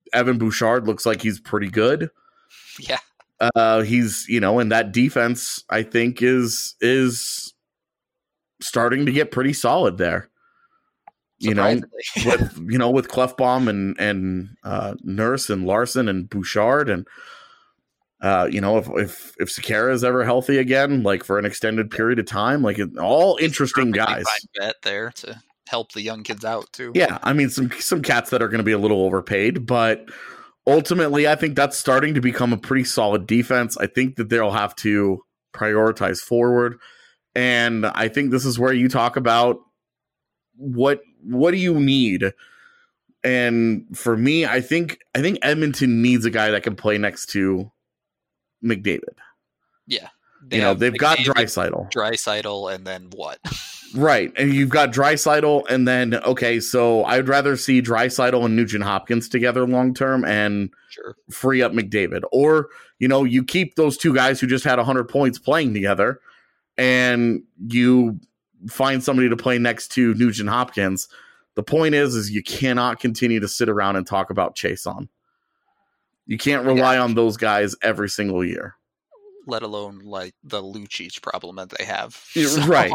Speaker 4: Evan Bouchard looks like he's pretty good.
Speaker 5: Yeah.
Speaker 4: Uh, he's, you know, and that defense, I think, is is starting to get pretty solid there. You know, with you know, with Clefbaum and and uh, Nurse and Larson and Bouchard, and uh, you know, if if if Sekera is ever healthy again, like for an extended period of time, like it, all interesting guys.
Speaker 5: Bet there to help the young kids out too.
Speaker 4: Yeah, I mean, some some cats that are going to be a little overpaid, but ultimately, I think that's starting to become a pretty solid defense. I think that they'll have to prioritize forward, and I think this is where you talk about what what do you need. And for me, I think I think Edmonton needs a guy that can play next to McDavid.
Speaker 5: Yeah,
Speaker 4: they you know they've McDavid, got Draisaitl,
Speaker 5: Draisaitl, and then what?
Speaker 4: Right, and you've got Draisaitl, and then okay, so I'd rather see Draisaitl and Nugent Hopkins together long term, and
Speaker 5: sure.
Speaker 4: free up McDavid, or you know you keep those two guys who just had one hundred points playing together, and you find somebody to play next to Nugent Hopkins. The point is, is you cannot continue to sit around and talk about Chiasson. You can't rely yeah. on those guys every single year.
Speaker 5: Let alone like the Lucic problem that they have.
Speaker 4: So. Right.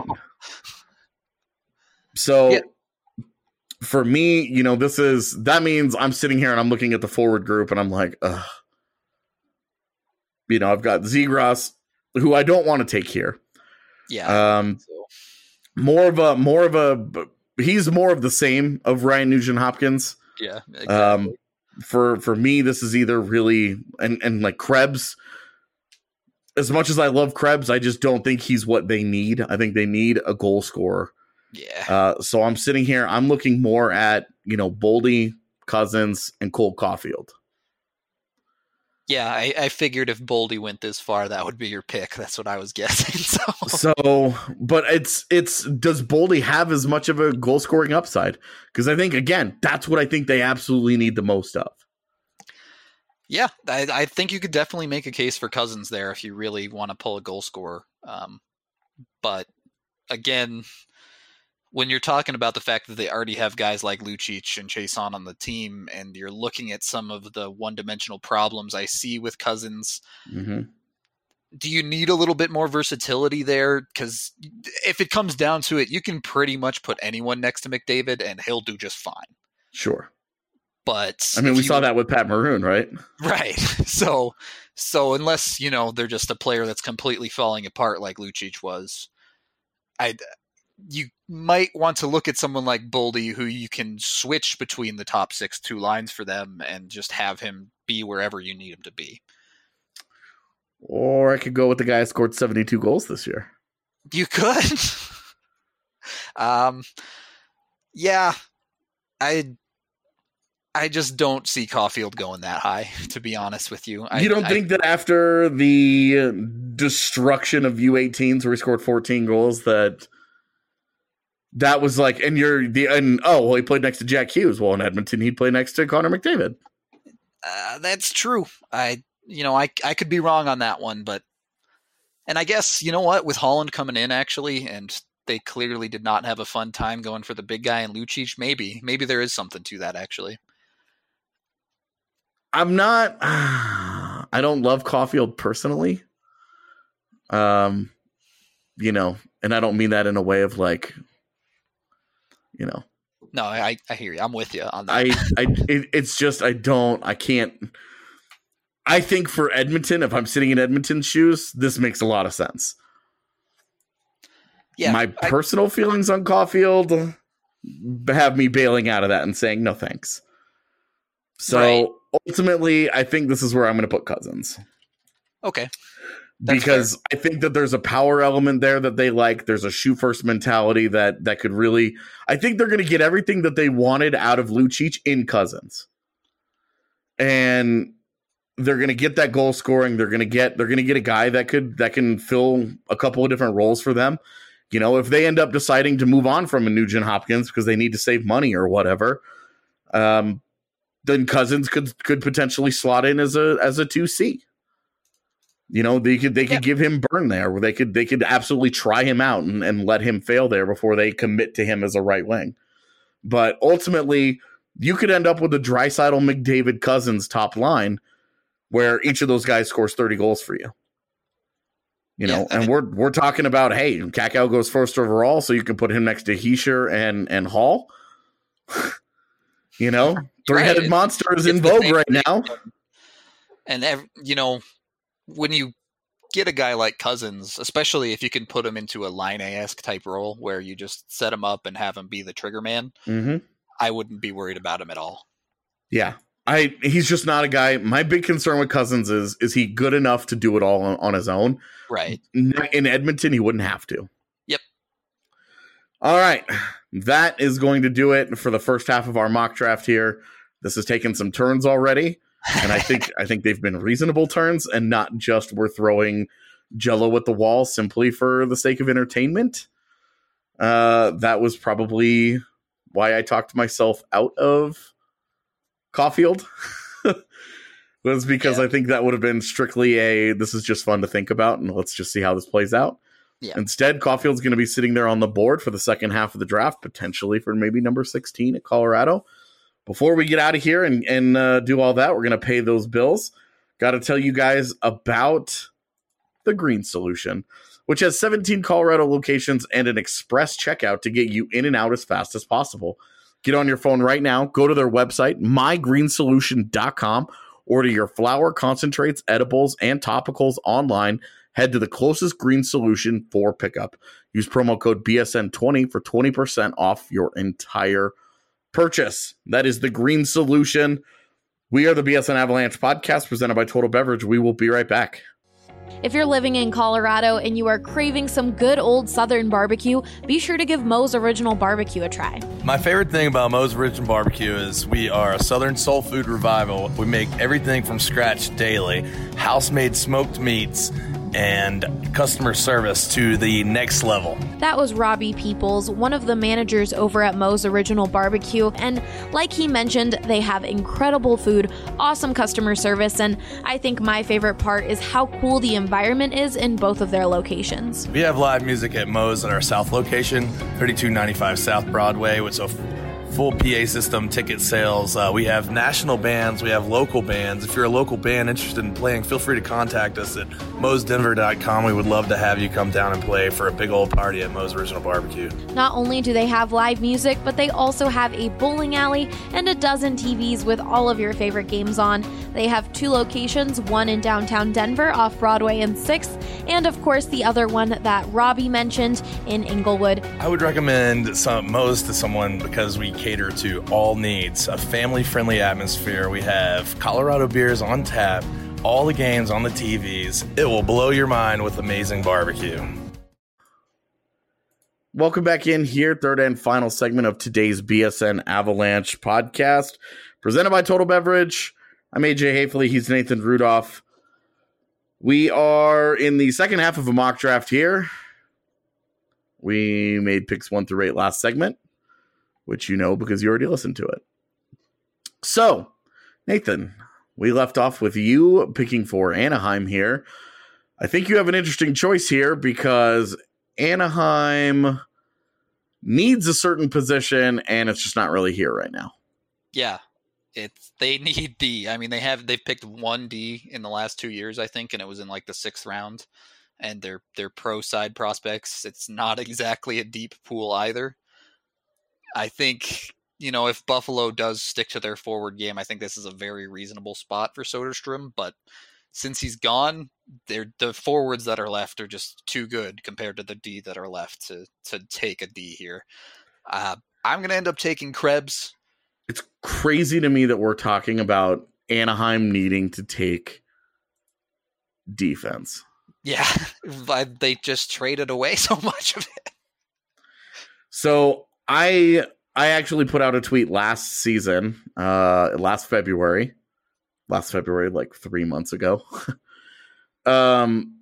Speaker 4: So yeah. for me, you know, this is, that means I'm sitting here and I'm looking at the forward group and I'm like, ugh. You know, I've got Zegras, who I don't want to take here.
Speaker 5: Yeah.
Speaker 4: Um, so. more of a, more of a, he's more of the same of Ryan Nugent Hopkins.
Speaker 5: Yeah. Exactly.
Speaker 4: Um, for, for me, this is either really, and, and like Krebs, as much as I love Krebs, I just don't think he's what they need. I think they need a goal scorer.
Speaker 5: Yeah.
Speaker 4: Uh, so I'm sitting here, I'm looking more at, you know, Boldy, Cousins, and Cole Caulfield.
Speaker 5: Yeah, I, I figured if Boldy went this far, that would be your pick. That's what I was guessing. So,
Speaker 4: so but it's, it's, does Boldy have as much of a goal scoring upside? Because I think, again, that's what I think they absolutely need the most of.
Speaker 5: Yeah, I, I think you could definitely make a case for Cousins there if you really want to pull a goal scorer. Um, but again, when you're talking about the fact that they already have guys like Lucic and Chiasson on the team, and you're looking at some of the one-dimensional problems I see with Cousins,
Speaker 4: mm-hmm.
Speaker 5: do you need a little bit more versatility there? Because if it comes down to it, you can pretty much put anyone next to McDavid and he'll do just fine.
Speaker 4: Sure.
Speaker 5: But
Speaker 4: I mean, we
Speaker 5: you,
Speaker 4: saw that with Pat Maroon, right?
Speaker 5: Right. So, so unless, you know, they're just a player that's completely falling apart like Lucic was, I, you might want to look at someone like Boldy, who you can switch between the top six two lines for them and just have him be wherever you need him to be.
Speaker 4: Or I could go with the guy who scored seventy-two goals this year.
Speaker 5: You could. um, yeah, I. I just don't see Caulfield going that high, to be honest with you. I,
Speaker 4: you don't
Speaker 5: I,
Speaker 4: think that after the destruction of U eighteens where he scored fourteen goals that that was like, and you're the, and oh, well, he played next to Jack Hughes. Well, in Edmonton, he'd play next to Connor McDavid.
Speaker 5: Uh, that's true. I, you know, I, I could be wrong on that one, but, and I guess, you know what, with Holland coming in actually, and they clearly did not have a fun time going for the big guy in Lucic, maybe, maybe there is something to that actually.
Speaker 4: I'm not, uh, I don't love Caulfield personally. Um, you know, and I don't mean that in a way of like, you know.
Speaker 5: No, I, I hear you. I'm with you on that.
Speaker 4: I, I, it, it's just, I don't, I can't, I think for Edmonton, if I'm sitting in Edmonton's shoes, this makes a lot of sense.
Speaker 5: Yeah.
Speaker 4: My
Speaker 5: I,
Speaker 4: personal feelings on Caulfield have me bailing out of that and saying, no, thanks. So, right. Ultimately, I think this is where I'm going to put Cousins.
Speaker 5: Okay.
Speaker 4: That's because fair. I think that there's a power element there that they like. There's a shoot first mentality that that could really, I think they're going to get everything that they wanted out of Lucic in Cousins. And they're going to get that goal scoring. They're going to get, they're going to get a guy that could, that can fill a couple of different roles for them. You know, if they end up deciding to move on from a Nugent Hopkins because they need to save money or whatever, um, then Cousins could could potentially slot in as a as a two C. You know, they could they could yeah. give him burn there, where they could they could absolutely try him out and, and let him fail there before they commit to him as a right wing. But ultimately, you could end up with a Draisaitl, McDavid, Cousins top line where each of those guys scores thirty goals for you. You know, yeah, and we're we're talking about, hey, Kakao goes first overall, so you can put him next to Hischier and, and Hall. You know, three-headed right. monster is it's in vogue right now.
Speaker 5: And, every, you know, when you get a guy like Cousins, especially if you can put him into a Line-A-esque type role where you just set him up and have him be the trigger man,
Speaker 4: mm-hmm.
Speaker 5: I wouldn't be worried about him at all.
Speaker 4: Yeah. I he's just not a guy. My big concern with Cousins is, is he good enough to do it all on, on his own?
Speaker 5: Right.
Speaker 4: In Edmonton, he wouldn't have to.
Speaker 5: Yep.
Speaker 4: All right. That is going to do it for the first half of our mock draft here. This has taken some turns already. And I think I think they've been reasonable turns and not just we're throwing Jello at the wall simply for the sake of entertainment. Uh, that was probably why I talked myself out of Caulfield. Was because yeah. I think that would have been strictly a this is just fun to think about and let's just see how this plays out.
Speaker 5: Yeah.
Speaker 4: Instead, Caulfield's going to be sitting there on the board for the second half of the draft, potentially for maybe number sixteen at Colorado. Before we get out of here and, and uh, do all that, we're going to pay those bills. Got to tell you guys about the Green Solution, which has seventeen Colorado locations and an express checkout to get you in and out as fast as possible. Get on your phone right now. Go to their website, my green solution dot com. Order your flower, concentrates, edibles, and topicals online. Head to the closest Green Solution for pickup. Use promo code B S N twenty for twenty percent off your entire purchase. That is the Green Solution. We are the B S N Avalanche podcast presented by Total Beverage. We will be right back.
Speaker 6: If you're living in Colorado and you are craving some good old Southern barbecue, be sure to give Moe's Original Barbecue a try.
Speaker 8: My favorite thing about Moe's Original Barbecue is we are a Southern soul food revival. We make everything from scratch daily, house-made smoked meats, and customer service to the next level.
Speaker 6: That was Robbie Peoples, one of the managers over at Moe's Original Barbecue, and like he mentioned, they have incredible food, awesome customer service, and I think my favorite part is how cool the environment is in both of their locations.
Speaker 8: We have live music at Moe's at our South location, thirty-two ninety-five South Broadway, which is a full P A system, ticket sales. Uh, we have national bands. We have local bands. If you're a local band interested in playing, feel free to contact us at moes denver dot com. We would love to have you come down and play for a big old party at Moe's Original Barbecue.
Speaker 6: Not only do they have live music, but they also have a bowling alley and a dozen T Vs with all of your favorite games on. They have two locations, one in downtown Denver off Broadway and sixth, and of course the other one that Robbie mentioned in Inglewood.
Speaker 8: I would recommend some Moe's to someone because we cater to all needs, a family-friendly atmosphere. We have Colorado beers on tap, all the games on the T Vs. It will blow your mind with amazing barbecue.
Speaker 4: Welcome back in here, third and final segment of today's B S N Avalanche podcast, presented by Total Beverage. I'm A J Hafley. He's Nathan Rudolph. We are in the second half of a mock draft here. We made picks one through eight last segment, which you know because you already listened to it. So, Nathan, we left off with you picking for Anaheim here. I think you have an interesting choice here because Anaheim needs a certain position and it's just not really here right now.
Speaker 5: Yeah, it's they need D. I mean, they have they've picked one D in the last two years, I think, and it was in like the sixth round. And they're they're pro side prospects. It's not exactly a deep pool either. I think, you know, if Buffalo does stick to their forward game, I think this is a very reasonable spot for Soderstrom. But since he's gone, they're, the forwards that are left are just too good compared to the D that are left to to take a D here. Uh, I'm going to end up taking Krebs.
Speaker 4: It's crazy to me that we're talking about Anaheim needing to take defense.
Speaker 5: Yeah, they just traded away so much of it.
Speaker 4: So I I actually put out a tweet last season, uh, last February, last February, like three months ago. um,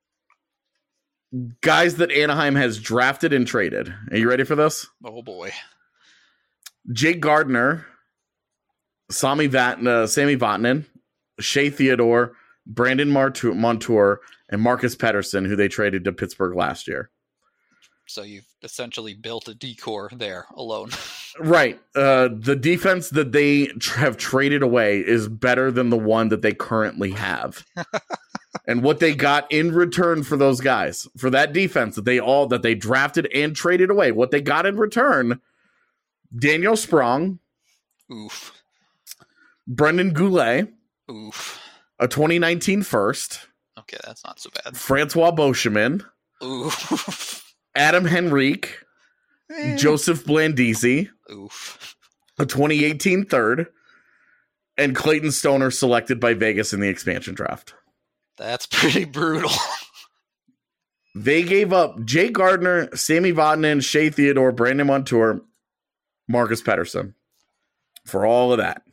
Speaker 4: guys that Anaheim has drafted and traded. Are you ready for this?
Speaker 5: Oh boy.
Speaker 4: Jake Gardiner, Sami Vat- uh, Sammy Vatanen, Shea Theodore, Brandon Montour, and Marcus Pettersson, who they traded to Pittsburgh last year.
Speaker 5: So you've essentially built a decor there alone.
Speaker 4: Right. Uh, the defense that they tr- have traded away is better than the one that they currently have. And what they got in return for those guys, for that defense that they all that they drafted and traded away, what they got in return, Daniel Sprong,
Speaker 5: Oof.
Speaker 4: Brendan Goulet,
Speaker 5: Oof.
Speaker 4: a twenty nineteen first,
Speaker 5: Okay, that's not so bad.
Speaker 4: Francois Beauchemin,
Speaker 5: Oof.
Speaker 4: Adam Henrique, Joseph Blandisi,
Speaker 5: Oof.
Speaker 4: a twenty eighteen third, and Clayton Stoner selected by Vegas in the expansion draft.
Speaker 5: That's pretty brutal.
Speaker 4: They gave up Jay Gardner, Sammy Vatanen, Shea Theodore, Brandon Montour, Marcus Pettersson for all of that.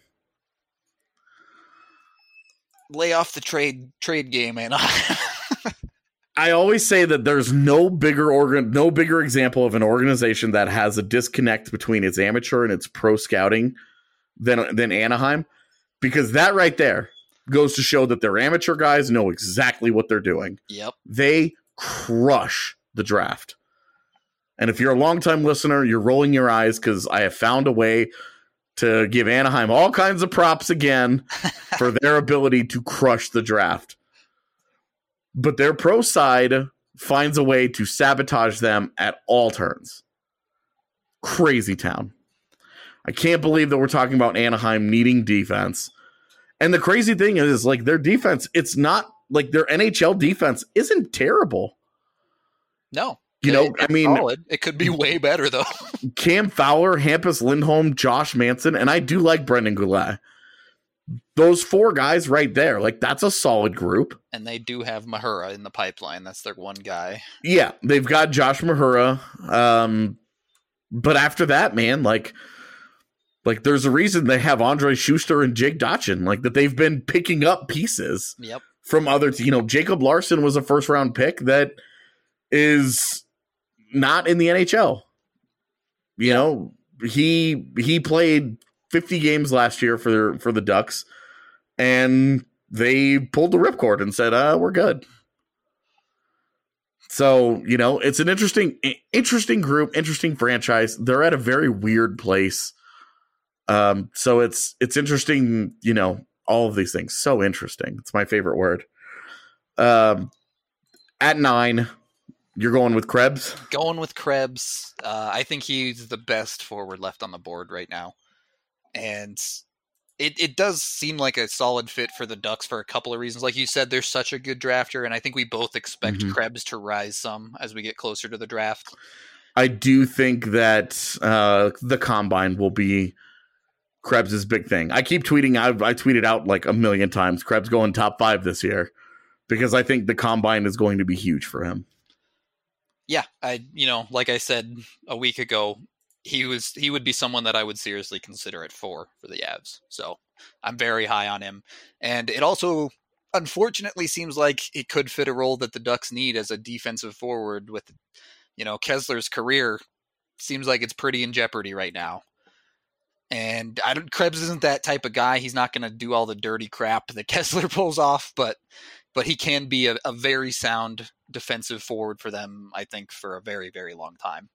Speaker 5: Lay off the trade trade game, man.
Speaker 4: I always say that there's no bigger organ, no bigger example of an organization that has a disconnect between its amateur and its pro scouting than than Anaheim, because that right there goes to show that their amateur guys know exactly what they're doing.
Speaker 5: Yep.
Speaker 4: They crush the draft. And if you're a longtime listener, you're rolling your eyes because I have found a way to give Anaheim all kinds of props again for their ability to crush the draft. But their pro side finds a way to sabotage them at all turns. Crazy town. I can't believe that we're talking about Anaheim needing defense. And the crazy thing is, like, their defense, it's not like their N H L defense isn't terrible.
Speaker 5: No.
Speaker 4: You know,
Speaker 5: It-
Speaker 4: I mean,
Speaker 5: solid. It could be way better, though.
Speaker 4: Cam Fowler, Hampus Lindholm, Josh Manson, and I do like Brendan Goulet. Those four guys right there, like, that's a solid group.
Speaker 5: And they do have Mahura in the pipeline. That's their one guy.
Speaker 4: Yeah, they've got Josh Mahura. Um, but after that, man, like, like there's a reason they have Andre Schuster and Jake Dotchin, like, that they've been picking up pieces
Speaker 5: Yep.
Speaker 4: from other, you know, Jacob Larson was a first round pick that is not in the N H L. You know, he he played fifty games last year for for the Ducks, and they pulled the ripcord and said, "Uh, we're good." So, you know, it's an interesting interesting group, interesting franchise. They're at a very weird place. Um, so it's it's interesting, you know, all of these things. So interesting. It's my favorite word. Um, at nine, you're going with Krebs?
Speaker 5: Going with Krebs. Uh, I think he's the best forward left on the board right now. And it, it does seem like a solid fit for the Ducks for a couple of reasons. Like you said, they're such a good drafter, and I think we both expect
Speaker 4: Mhm.
Speaker 5: Krebs to rise some as we get closer to the draft.
Speaker 4: I do think that uh, the combine will be Krebs' big thing. I keep tweeting. I, I tweeted out like a million times, Krebs going top five this year, because I think the combine is going to be huge for him.
Speaker 5: Yeah, I you know, like I said a week ago, he was he would be someone that I would seriously consider at four for the Avs. So I'm very high on him. And it also unfortunately seems like it could fit a role that the Ducks need as a defensive forward with, you know, Kessler's career seems like it's pretty in jeopardy right now. And I don't Krebs isn't that type of guy. He's not going to do all the dirty crap that Kessler pulls off, but but he can be a, a very sound defensive forward for them, I think, for a very, very long time.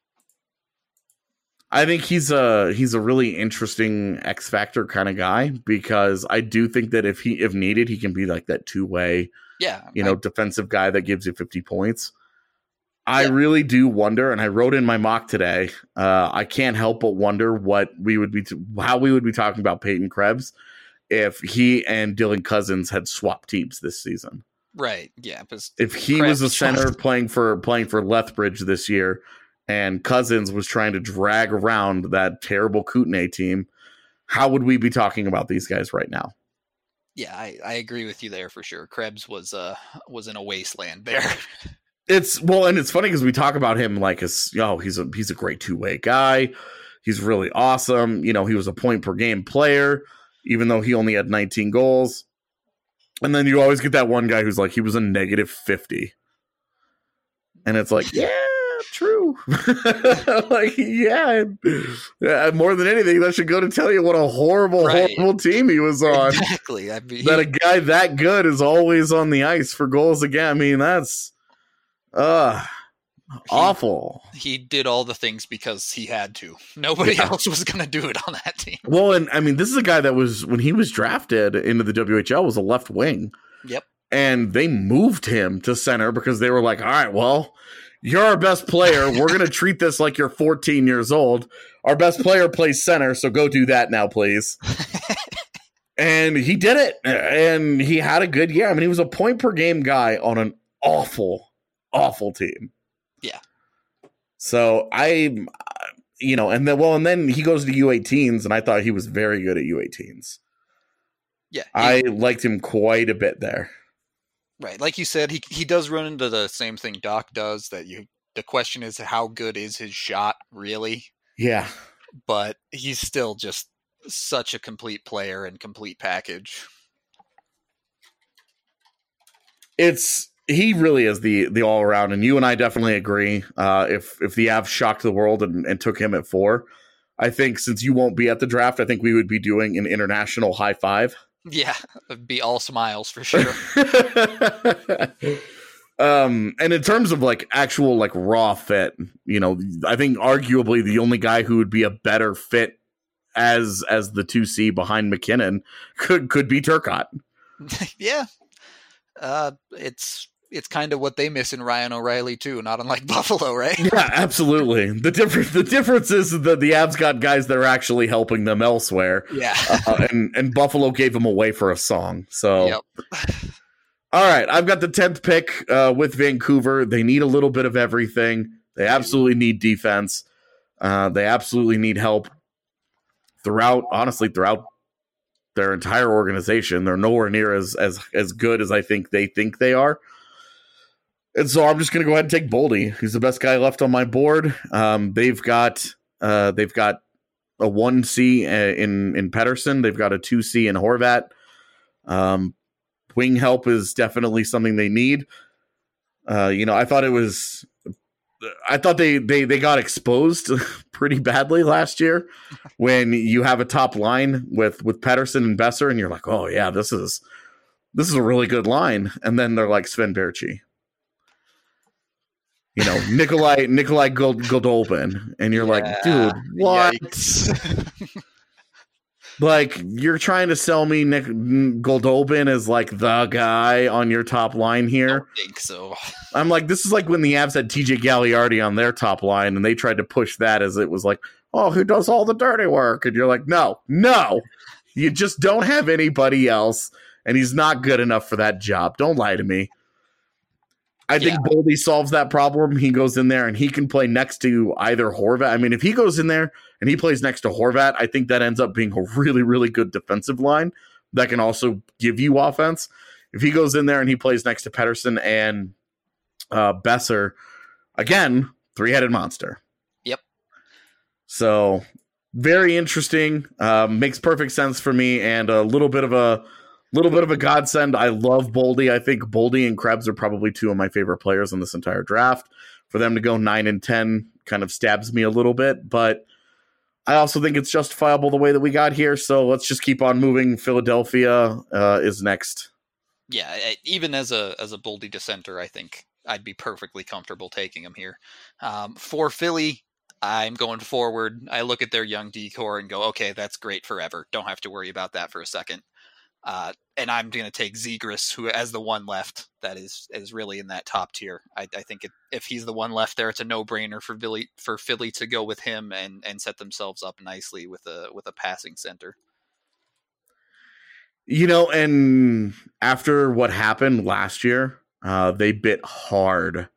Speaker 4: I think he's a he's a really interesting X factor kind of guy, because I do think that if he if needed, he can be like that two way,
Speaker 5: Yeah,
Speaker 4: you know,
Speaker 5: I,
Speaker 4: defensive guy that gives you fifty points. I
Speaker 5: Yeah.
Speaker 4: really do wonder, and I wrote in my mock today. Uh, I can't help but wonder what we would be, t- how we would be talking about Peyton Krebs if he and Dylan Cousins had swapped teams this season.
Speaker 5: right. Yeah, because
Speaker 4: If he
Speaker 5: Krebs
Speaker 4: was a center playing for playing for Lethbridge this year, and Cousins was trying to drag around that terrible Kootenay team, how would we be talking about these guys right now?
Speaker 5: yeah, I, I agree with you there for sure. Krebs was uh was in a wasteland there.
Speaker 4: It's well, and it's funny because we talk about him like as oh, he's a he's a great two way guy. He's really awesome. You know, he was a point per game player, even though he only had nineteen goals. And then you always get that one guy who's like, he was a negative fifty, and it's like, yeah, true. Like, yeah, yeah, more than anything, that should go to tell you what a horrible,
Speaker 5: Right.
Speaker 4: horrible team he was on.
Speaker 5: Exactly. I mean,
Speaker 4: That a guy that good is always on the ice for goals again. I mean, that's uh Awful.
Speaker 5: He did all the things because he had to. Nobody
Speaker 4: Yeah.
Speaker 5: else was going to do it on that team.
Speaker 4: Well, and I mean, this is a guy that was, when he was drafted into the W H L, was a left wing.
Speaker 5: Yep.
Speaker 4: And they moved him to center because they were like, all right, well, you're our best player. We're going to treat this like you're fourteen years old. Our best player plays center, so go do that now, please. And he did it. And he had a good year. I mean, he was a point per game guy on an awful, awful team.
Speaker 5: Yeah.
Speaker 4: So I, you know, and then, well, and then he goes to U eighteens, and I thought he was very good at U eighteens.
Speaker 5: Yeah. He,
Speaker 4: I liked him quite a bit there.
Speaker 5: right. Like you said, he he does run into the same thing Doc does, that you the question is how good is his shot really?
Speaker 4: Yeah.
Speaker 5: But he's still just such a complete player and complete package.
Speaker 4: It's he really is the the all around, and you and I definitely agree. Uh, if if the Avs shocked the world and, and took him at four, I think since you won't be at the draft, I think we would be doing an international high five.
Speaker 5: Yeah, it'd be all smiles for sure.
Speaker 4: um, and in terms of like actual like raw fit, you know, I think arguably the only guy who would be a better fit as as the two C behind McKinnon could could be Turcotte.
Speaker 5: Yeah, uh, it's it's kind of what they miss in Ryan O'Reilly too. Not unlike Buffalo, right?
Speaker 4: Yeah, absolutely. The difference the difference is that the Avs got guys that are actually helping them elsewhere.
Speaker 5: Yeah,
Speaker 4: uh, and and Buffalo gave them away for a song. So,
Speaker 5: yep.
Speaker 4: All right, I've got the tenth pick uh, with Vancouver. They need a little bit of everything. They absolutely need defense. Uh, they absolutely need help throughout. Honestly, throughout their entire organization, they're nowhere near as as as good as I think they think they are. And so I'm just going to go ahead and take Boldy. He's the best guy left on my board. Um, they've got uh, they've got a one C in in Pettersson. They've got a two C in Horvat. Um, wing help is definitely something they need. Uh, you know, I thought it was. I thought they they they got exposed pretty badly last year when you have a top line with with Pettersson and Besser, and you're like, oh yeah, this is this is a really good line, and then they're like Sven Berchi. You know, Nikolai Nikolai Gold, Goldolbin, and you're
Speaker 5: Yeah.
Speaker 4: like, dude, what?
Speaker 5: Yikes.
Speaker 4: Like, you're trying to sell me Nick Goldolbin as like the guy on your top line
Speaker 5: I
Speaker 4: here.
Speaker 5: don't think so.
Speaker 4: I'm like, this is like when the Avs had T J Galliardi on their top line, and they tried to push that as it was like, oh, who does all the dirty work? And you're like, no, no, you just don't have anybody else, and he's not good enough for that job. Don't lie to me. I think
Speaker 5: Yeah.
Speaker 4: Boldy solves that problem. He goes in there and he can play next to either Horvat. I mean, if he goes in there and he plays next to Horvat, I think that ends up being a really, really good defensive line that can also give you offense. If he goes in there and he plays next to Pettersson and uh, Besser, again, three-headed monster.
Speaker 5: Yep.
Speaker 4: So very interesting. Um, makes perfect sense for me, and a little bit of a little bit of a godsend. I love Boldy. I think Boldy and Krebs are probably two of my favorite players in this entire draft. For them to go nine and ten kind of stabs me a little bit, but I also think it's justifiable the way that we got here. So let's just keep on moving. Philadelphia uh, is next.
Speaker 5: Yeah, I- even as a as a Boldy dissenter, I think I'd be perfectly comfortable taking him here. Um, for Philly, I'm going forward. I look at their young decor and go, okay, that's great forever. Don't have to worry about that for a second. Uh, and I'm going to take Zegras, who as the one left that is is really in that top tier. I, I think it, if he's the one left there, it's a no brainer for Philly for Philly to go with him and and set themselves up nicely with a with a passing center.
Speaker 4: You know, and after what happened last year, uh, they bit hard,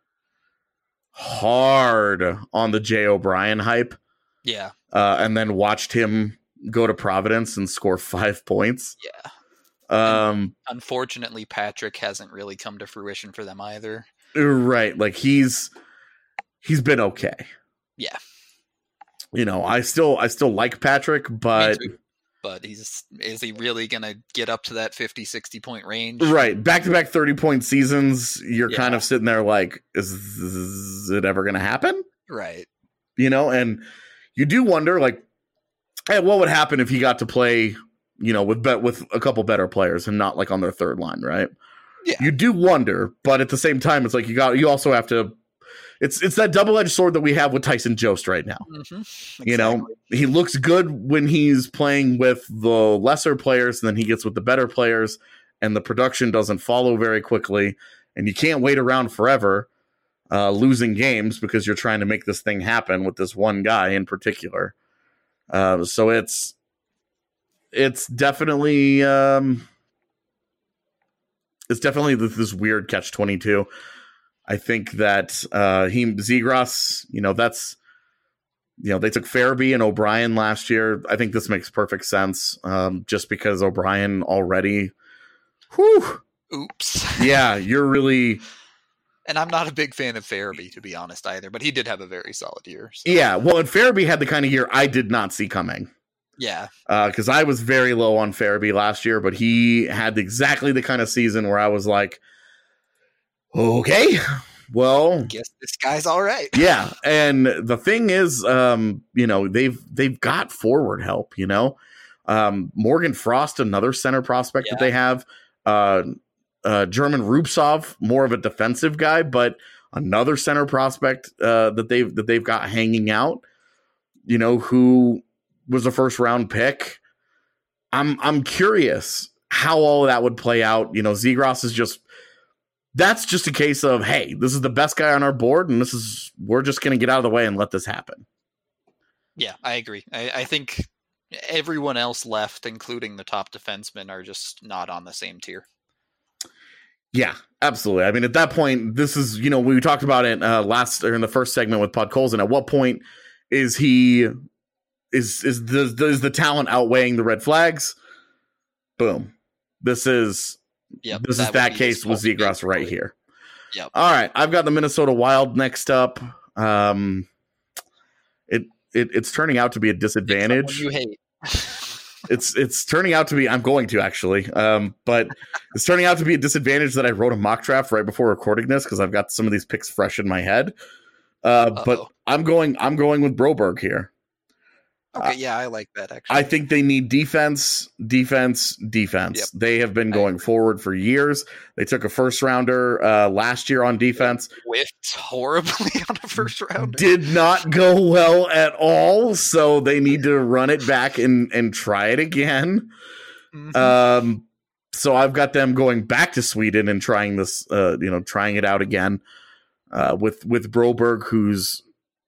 Speaker 4: hard on the Jay O'Brien hype,
Speaker 5: Yeah,
Speaker 4: uh, and then watched him go to Providence and score five points.
Speaker 5: yeah.
Speaker 4: Um,
Speaker 5: Unfortunately, Patrick hasn't really come to fruition for them either.
Speaker 4: right, like he's he's been okay.
Speaker 5: Yeah.
Speaker 4: You know, I still I still like Patrick, but
Speaker 5: Me too. But he's is he really going to get up to that fifty, sixty point range?
Speaker 4: right, back to back thirty point seasons. You're
Speaker 5: Yeah.
Speaker 4: kind of sitting there like, is, is it ever going to happen?
Speaker 5: Right.
Speaker 4: You know, and you do wonder, like, hey, what would happen if he got to play, you know, with bet with a couple better players and not like on their third line, right?
Speaker 5: Yeah.
Speaker 4: You do wonder, but at the same time, it's like you got you also have to it's it's that double-edged sword that we have with Tyson Jost right now.
Speaker 5: Mm-hmm. Exactly.
Speaker 4: You know, he looks good when he's playing with the lesser players, and then he gets with the better players, and the production doesn't follow very quickly, and you can't wait around forever uh, losing games because you're trying to make this thing happen with this one guy in particular. Uh, so it's it's definitely um, it's definitely this, this weird catch twenty-two. I think that uh, he Zegras, you know, that's, you know, they took Farabee and O'Brien last year. I think this makes perfect sense um, just because O'Brien already, whew,
Speaker 5: oops.
Speaker 4: Yeah, you're really.
Speaker 5: And I'm not a big fan of Farabee, to be honest, either, but he did have a very solid year. So.
Speaker 4: Yeah, well, and Farabee had the kind of year I did not see coming.
Speaker 5: Yeah.
Speaker 4: Because uh, I was very low on Farabee last year, but he had exactly the kind of season where I was like, okay, well,
Speaker 5: guess this guy's all right.
Speaker 4: Yeah, and the thing is, um, you know, they've they've got forward help. You know, um, Morgan Frost, another center prospect
Speaker 5: Yeah.
Speaker 4: that they have. Uh, uh, German Rubtsov, more of a defensive guy, but another center prospect uh, that they've that they've got hanging out. You know, who was a first round pick. I'm I'm curious how all of that would play out. You know, Zegras is just. That's just a case of, hey, this is the best guy on our board, and this is we're just going to get out of the way and let this happen.
Speaker 5: Yeah, I agree. I, I think everyone else left, including the top defensemen, are just not on the same tier.
Speaker 4: Yeah, absolutely. I mean, at that point, this is, you know, we talked about it uh, last or in the first segment with Podkolzin. At what point is he is is the is the talent outweighing the red flags? Boom. This is.
Speaker 5: Yep,
Speaker 4: this
Speaker 5: that
Speaker 4: is that
Speaker 5: would be
Speaker 4: case
Speaker 5: his
Speaker 4: with
Speaker 5: fault,
Speaker 4: Zegras right
Speaker 5: basically.
Speaker 4: here.
Speaker 5: Yep.
Speaker 4: All right, I've got the Minnesota Wild next up. Um, it it it's turning out to be a disadvantage.
Speaker 5: You hate.
Speaker 4: it's it's turning out to be. I'm going to actually, um, but it's turning out to be a disadvantage that I wrote a mock draft right before recording this because I've got some of these picks fresh in my head. Uh, but I'm going. I'm going with Broberg here.
Speaker 5: Okay, yeah, I like that, actually.
Speaker 4: I think they need defense, defense, defense.
Speaker 5: Yep.
Speaker 4: They have been going forward for years. They took a first rounder uh, last year on defense.
Speaker 5: Whiffed horribly on a first rounder.
Speaker 4: Did not go well at all, so they need to run it back and, and try it again. Mm-hmm. Um, so I've got them going back to Sweden and trying this, uh, you know, trying it out again uh, with, with Broberg, who's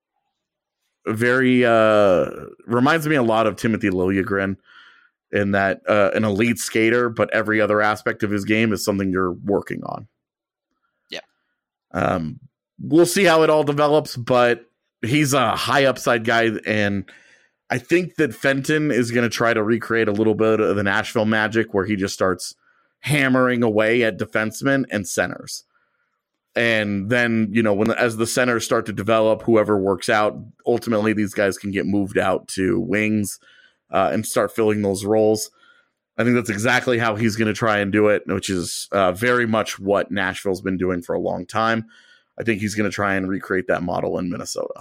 Speaker 4: very uh reminds me a lot of Timothy Liljegren in that uh an elite skater, but every other aspect of his game is something you're working on.
Speaker 5: Yeah.
Speaker 4: Um we'll see how it all develops, but he's a high upside guy, and I think that Fenton is going to try to recreate a little bit of the Nashville magic where he just starts hammering away at defensemen and centers. And then, you know, when as the centers start to develop, whoever works out, ultimately these guys can get moved out to wings uh, and start filling those roles. I think that's exactly how he's going to try and do it, which is uh, very much what Nashville's been doing for a long time. I think he's going to try and recreate that model in Minnesota.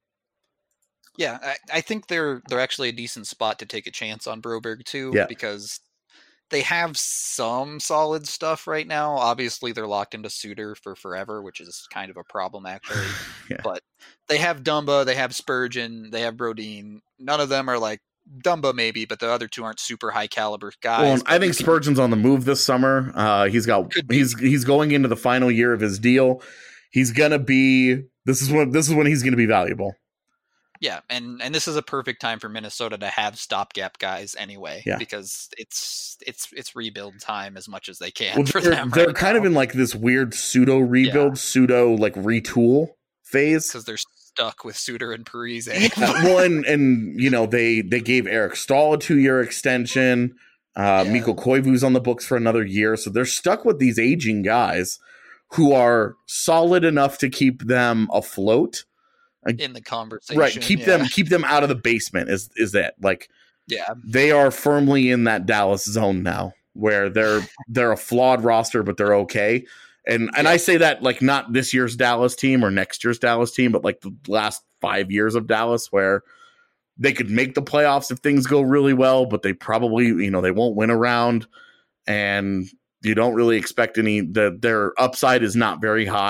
Speaker 5: Yeah, I, I think they're they're actually a decent spot to take a chance on Broberg too,
Speaker 4: Yeah.
Speaker 5: because they have some solid stuff right now. Obviously, they're locked into Suter for forever, which is kind of a problem, actually.
Speaker 4: Yeah.
Speaker 5: But they have Dumba, they have Spurgeon, they have Brodin. None of them are like Dumba, maybe, but the other two aren't super high caliber guys.
Speaker 4: Well, I
Speaker 5: But
Speaker 4: think Spurgeon's on the move this summer. Uh, he's got he's he's going into the final year of his deal. He's gonna be this is when this is when he's gonna be valuable.
Speaker 5: Yeah, and, and this is a perfect time for Minnesota to have stopgap guys anyway,
Speaker 4: Yeah.
Speaker 5: because it's it's it's rebuild time as much as they can
Speaker 4: Well,
Speaker 5: for
Speaker 4: they're
Speaker 5: them.
Speaker 4: they're
Speaker 5: right
Speaker 4: kind
Speaker 5: now.
Speaker 4: of in like this weird pseudo rebuild, pseudo like retool phase.
Speaker 5: because they're stuck with Suter and Parise.
Speaker 4: Yeah, well, and and you know they they gave Eric Stahl a two year extension. Uh,
Speaker 5: Yeah.
Speaker 4: Mikko Koivu's on the books for another year, so they're stuck with these aging guys who are solid enough to keep them afloat.
Speaker 5: in the conversation,
Speaker 4: Right, keep
Speaker 5: yeah.
Speaker 4: them keep them out of the basement. Is is it like
Speaker 5: Yeah,
Speaker 4: they are firmly in that Dallas zone now, where they're they're a flawed roster, but they're okay. And and I say that like not this year's Dallas team or next year's Dallas team, but like the last five years of Dallas, where they could make the playoffs if things go really well, but they probably, you know, they won't win a round, and you don't really expect any. The, their upside is not very high,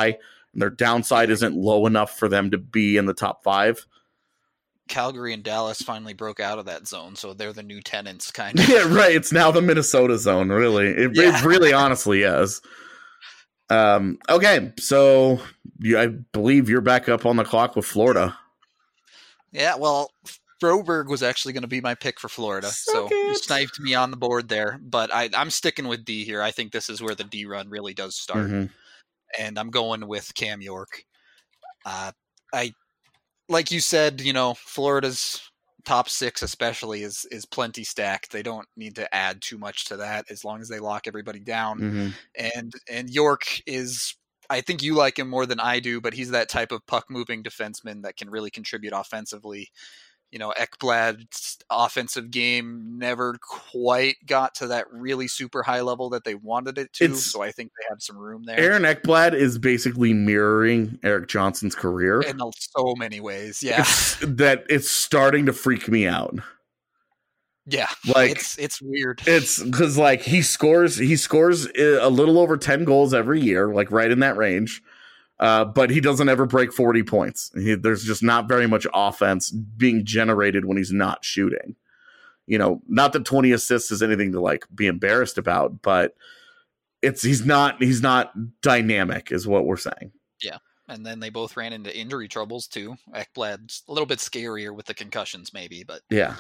Speaker 4: Their downside isn't low enough for them to be in the top five.
Speaker 5: Calgary and Dallas finally broke out of that zone, so they're the new tenants, kind of.
Speaker 4: Yeah, right. It's now the Minnesota zone, really. It,
Speaker 5: Yeah.
Speaker 4: it really honestly is. Um, okay, so you, I believe you're back up on the clock with Florida.
Speaker 5: Yeah, well, Broberg was actually going to be my pick for Florida, so you sniped me on the board there. But I, I'm sticking with D here. I think this is where the D run really does start,
Speaker 4: Mhm.
Speaker 5: and I'm going with Cam York. Uh, I, like you said, you know, Florida's top six especially is is plenty stacked. They don't need to add too much to that as long as they lock everybody down.
Speaker 4: Mhm.
Speaker 5: And and York is, I think you like him more than I do, but he's that type of puck moving defenseman that can really contribute offensively. You know, Ekblad's offensive game never quite got to that really super high level that they wanted it to.
Speaker 4: It's-
Speaker 5: so I think they have some room there.
Speaker 4: Aaron Ekblad is basically mirroring Eric Johnson's career.
Speaker 5: in so many ways. Yeah.
Speaker 4: It's, that it's starting to freak me out.
Speaker 5: Yeah.
Speaker 4: Like,
Speaker 5: it's it's weird.
Speaker 4: It's because like he scores, he scores a little over ten goals every year, like right in that range. Uh, but he doesn't ever break forty points. He, there's just not very much offense being generated when he's not shooting. You know, not that twenty assists is anything to like be embarrassed about, but it's he's not he's not dynamic, is what we're saying.
Speaker 5: Yeah. And then they both ran into injury troubles too. Ekblad's a little bit scarier with the concussions, maybe, but
Speaker 4: Yeah.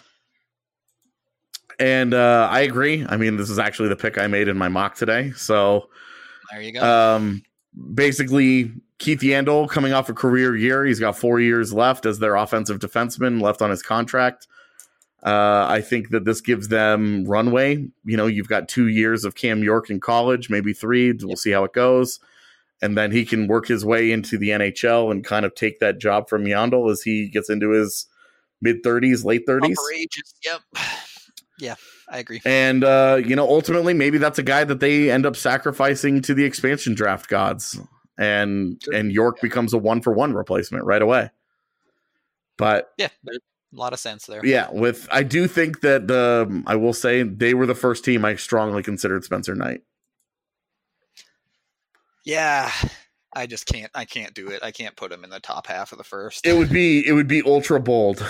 Speaker 4: And uh, I agree. I mean, this is actually the pick I made in my mock today. So
Speaker 5: there you go.
Speaker 4: um, basically, Keith Yandel coming off a career year. He's got four years left as their offensive defenseman left on his contract. Uh, I think that this gives them runway. You know, you've got two years of Cam York in college, maybe three. We'll see how it goes. And then he can work his way into the N H L and kind of take that job from Yandel as he gets into his mid-thirties, late thirties.
Speaker 5: Upper ages. Yep. Yeah, I agree.
Speaker 4: And, uh, you know, ultimately, maybe that's a guy that they end up sacrificing to the expansion draft gods. And
Speaker 5: Sure.
Speaker 4: and York
Speaker 5: Yeah.
Speaker 4: becomes a one-for-one replacement right away. But,
Speaker 5: Yeah, there's a lot of sense there.
Speaker 4: yeah, with I do think that, the I will say, they were the first team I strongly considered Spencer Knight.
Speaker 5: Yeah, I just can't. I can't do it. I can't put him in the top half of the first.
Speaker 4: It would be it would be ultra bold.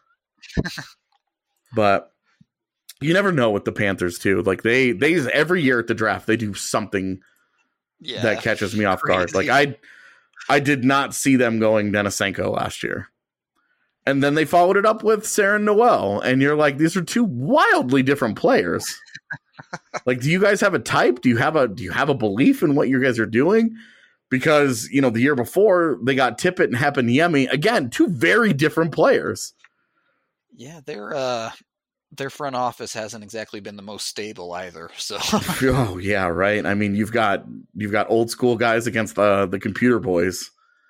Speaker 4: But you never know with the Panthers, too. Like, they, they every year at the draft, they do something
Speaker 5: yeah,
Speaker 4: that catches me off guard.
Speaker 5: crazy.
Speaker 4: Like I, I did not see them going Denisenko last year, and then they followed it up with Saren Noel, and you're like, these are two wildly different players. Like, do you guys have a type? Do you have a do you have a belief in what you guys are doing? Because you know the year before they got Tippett and Heponiemi, again, two very different players.
Speaker 5: Yeah, their uh, their front office hasn't exactly been the most stable either. So
Speaker 4: Oh yeah, right. I mean, you've got you've got old school guys against the the computer boys.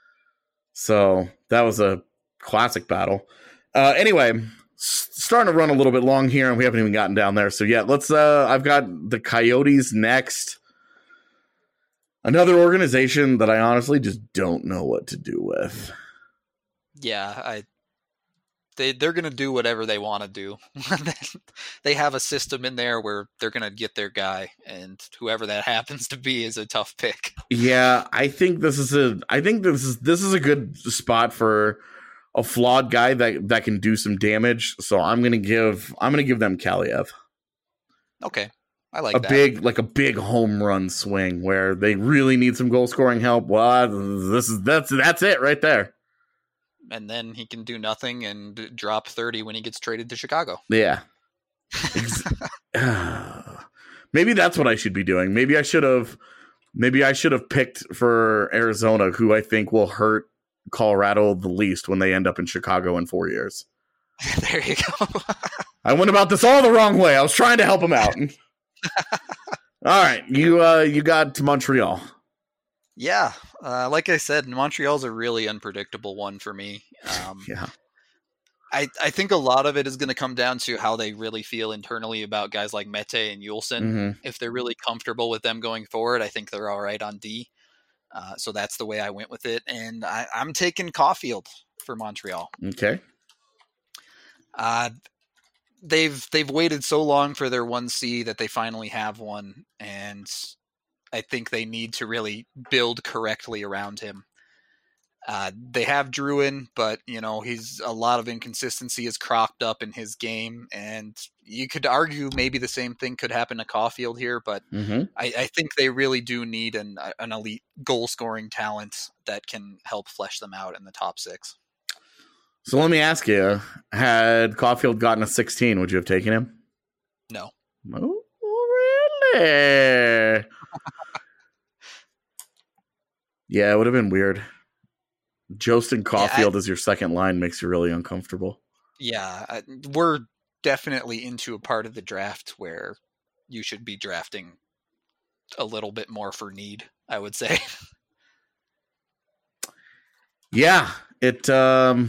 Speaker 4: So that was a classic battle. Uh, anyway, s- starting to run a little bit long here, and we haven't even gotten down there. So yeah, let's. Uh, I've got the Coyotes next. Another organization that I honestly just don't know what to do with.
Speaker 5: yeah, I they they're gonna do whatever they want to do. They have a system in there where they're gonna get their guy, and whoever that happens to be is a tough pick.
Speaker 4: Yeah, I think this is a. I think this is this is a good spot for a flawed guy that that can do some damage. So I'm gonna give I'm gonna give them Kaliev.
Speaker 5: Okay, I like
Speaker 4: a
Speaker 5: that.
Speaker 4: big like a big home run swing where they really need some goal scoring help. Well, this is that's that's it right there.
Speaker 5: And then he can do nothing and drop thirty when he gets traded to Chicago.
Speaker 4: Yeah. Ex- maybe that's what I should be doing. Maybe I should have maybe I should have picked for Arizona, who I think will hurt Colorado the least when they end up in Chicago in four years.
Speaker 5: There you go.
Speaker 4: I went about this all the wrong way. I was trying to help him out. All right, you uh, you got to Montreal.
Speaker 5: Yeah, uh, like I said, Montreal's a really unpredictable one for me. Um,
Speaker 4: Yeah.
Speaker 5: I, I think a lot of it is going to come down to how they really feel internally about guys like Mete and Yulson.
Speaker 4: hmm
Speaker 5: If they're really comfortable with them going forward, I think they're all right on D. Uh, so that's the way I went with it. And I, I'm taking Caulfield for Montreal.
Speaker 4: Okay.
Speaker 5: Uh, they've they've waited so long for their one C that they finally have one, and I think they need to really build correctly around him. Uh, they have Druin, but you know he's a lot of inconsistency is cropped up in his game, and you could argue maybe the same thing could happen to Caulfield here. But
Speaker 4: Mm-hmm.
Speaker 5: I, I think they really do need an an elite goal scoring talent that can help flesh them out in the top six.
Speaker 4: So let me ask you: had Caulfield gotten a sixteen, would you have taken him?
Speaker 5: No.
Speaker 4: Oh, really? Yeah, it would have been weird. Jost and Caulfield
Speaker 5: Yeah, I,
Speaker 4: as your second line makes you really uncomfortable.
Speaker 5: yeah, I, we're definitely into a part of the draft where you should be drafting a little bit more for need, I would say.
Speaker 4: Yeah, it. Um,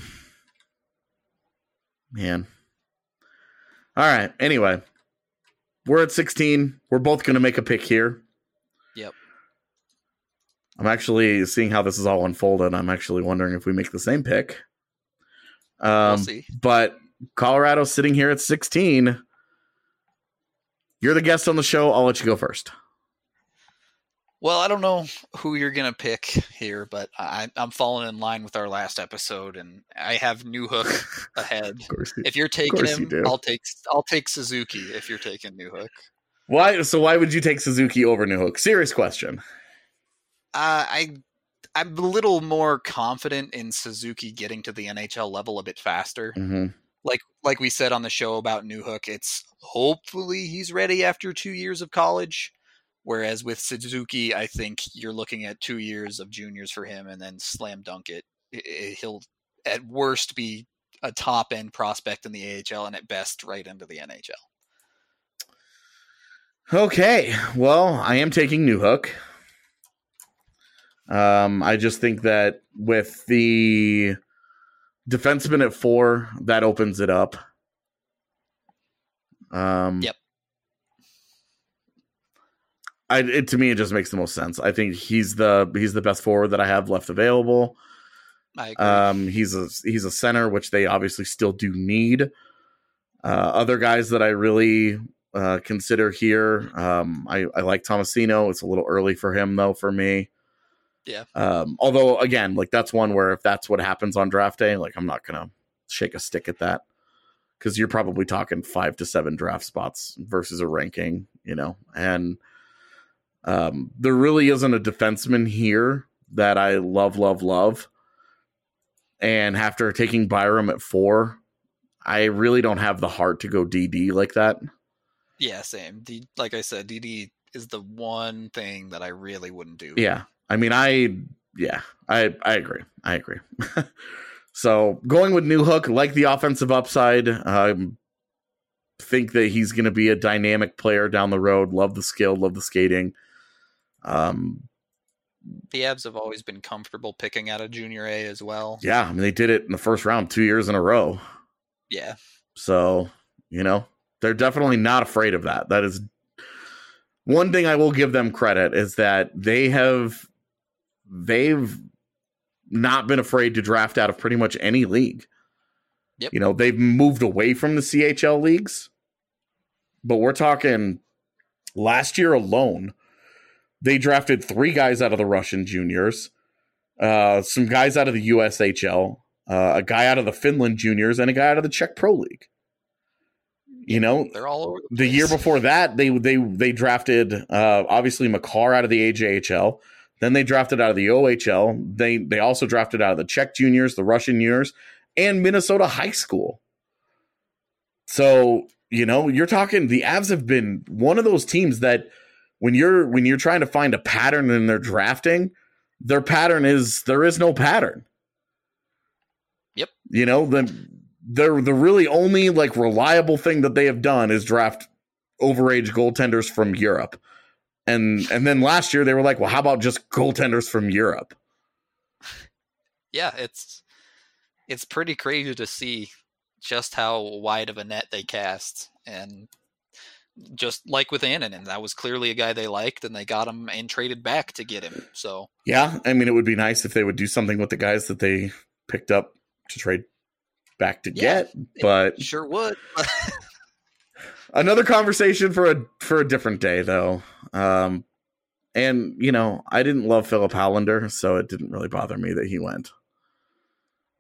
Speaker 4: man. All right. Anyway, we're at sixteen. We're both going to make a pick here.
Speaker 5: Yep.
Speaker 4: I'm actually seeing how this is all unfolded. I'm actually wondering if we make the same pick. Um,
Speaker 5: We'll see.
Speaker 4: But Colorado sitting here at sixteen. You're the guest on the show. I'll let you go first.
Speaker 5: Well, I don't know who you're going to pick here, but I, I'm falling in line with our last episode, and I have Newhook ahead.
Speaker 4: Of course, you-
Speaker 5: If you're taking
Speaker 4: course you
Speaker 5: him,
Speaker 4: do.
Speaker 5: I'll take I'll take Suzuki if you're taking Newhook.
Speaker 4: Why? So why would you take Suzuki over Newhook? Serious question.
Speaker 5: Uh, I I'm a little more confident in Suzuki getting to the N H L level a bit faster.
Speaker 4: Mm-hmm.
Speaker 5: Like like we said on the show about Newhook, it's hopefully he's ready after two years of college. Whereas with Suzuki, I think you're looking at two years of juniors for him and then slam dunk it. I- I- He'll at worst be a top end prospect in the A H L and at best right into the N H L.
Speaker 4: Okay, well, I am taking Newhook. Um, I just think that with the defenseman at four, that opens it up. Um,
Speaker 5: Yep.
Speaker 4: I, it, to me, it just makes the most sense. I think he's the he's the best forward that I have left available.
Speaker 5: I agree.
Speaker 4: Um, he's a he's a center, which they obviously still do need. Uh, other guys that I really uh, consider here, um, I, I like Tomasino. It's a little early for him, though, for me.
Speaker 5: Yeah.
Speaker 4: Um, although, again, like that's one where if that's what happens on draft day, like I'm not gonna shake a stick at that because you're probably talking five to seven draft spots versus a ranking, you know, and. Um, there really isn't a defenseman here that I love, love, love. And after taking Byram at four, I really don't have the heart to go D D like that.
Speaker 5: Yeah, same. D, like I said, D D is the one thing that I really wouldn't do.
Speaker 4: Yeah. I mean, I, yeah, I, I agree. I agree. So going with Newhook, like the offensive upside, um, think that he's going to be a dynamic player down the road. Love the skill, love the skating. Um,
Speaker 5: The Avs have always been comfortable picking out a junior A as well.
Speaker 4: yeah, I mean, they did it in the first round two years in a row.
Speaker 5: Yeah.
Speaker 4: So, you know, they're definitely not afraid of that. That is one thing I will give them credit is that they have, they've not been afraid to draft out of pretty much any league.
Speaker 5: Yep.
Speaker 4: You know, they've moved away from the C H L leagues, but we're talking last year alone. They drafted three guys out of the Russian juniors, uh, some guys out of the U S H L, uh, a guy out of the Finland juniors, and a guy out of the Czech Pro League. You know,
Speaker 5: They're all over the
Speaker 4: the
Speaker 5: place.
Speaker 4: year before that, they they they drafted uh, obviously Makar out of the A J H L. Then they drafted out of the O H L. They they also drafted out of the Czech juniors, the Russian juniors, and Minnesota high school. So, you know, you're talking the Avs have been one of those teams that when you're when you're trying to find a pattern in their drafting, their pattern is there is no pattern.
Speaker 5: Yep.
Speaker 4: You know, the they're the really only like reliable thing that they have done is draft overage goaltenders from Europe. And and then last year they were like, well, how about just goaltenders from Europe?
Speaker 5: Yeah, it's it's pretty crazy to see just how wide of a net they cast. And just like with Annunen, that was clearly a guy they liked, and they got him and traded back to get him. So
Speaker 4: Yeah, I mean, it would be nice if they would do something with the guys that they picked up to trade back to
Speaker 5: Yeah,
Speaker 4: get, but
Speaker 5: sure would.
Speaker 4: another conversation for a for a different day, though. Um, and you know, I didn't love Philip Hollander, so it didn't really bother me that he went.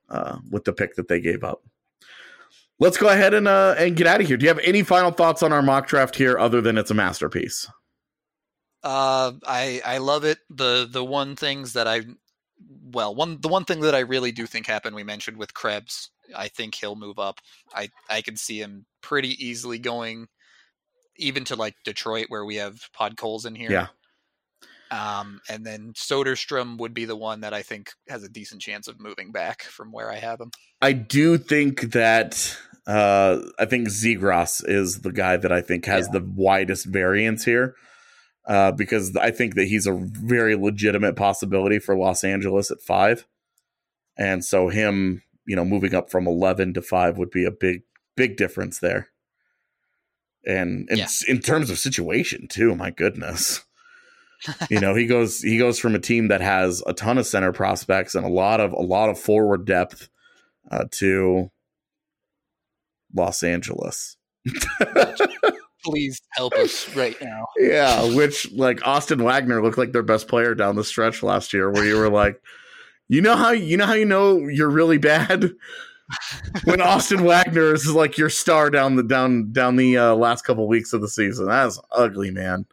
Speaker 4: uh, with the pick that they gave up. Let's go ahead and uh, and get out of here. Do you have any final thoughts on our mock draft here other than it's a masterpiece?
Speaker 5: Uh, I I love it. The the one things that I well one the one thing that I really do think happened, we mentioned with Krebs. I think he'll move up. I I can see him pretty easily going even to like Detroit, where we have Podkolzin in here.
Speaker 4: Yeah.
Speaker 5: Um, and then Soderstrom would be the one that I think has a decent chance of moving back from where I have him.
Speaker 4: I do think that uh, I think Zegras is the guy that I think has yeah. the widest variance here, uh, because I think that he's a very legitimate possibility for Los Angeles at five. And so him, you know, moving up from eleven to five would be a big, big difference there. And, and yeah. in terms of situation too, my goodness. You know, he goes he goes from a team that has a ton of center prospects and a lot of a lot of forward depth uh, to Los Angeles.
Speaker 5: Please help us right now.
Speaker 4: Yeah, which like Austin Wagner looked like their best player down the stretch last year, where you were like, you know how you know how you know you're really bad when Austin Wagner is like your star down the down down the uh, last couple weeks of the season. That's ugly, man.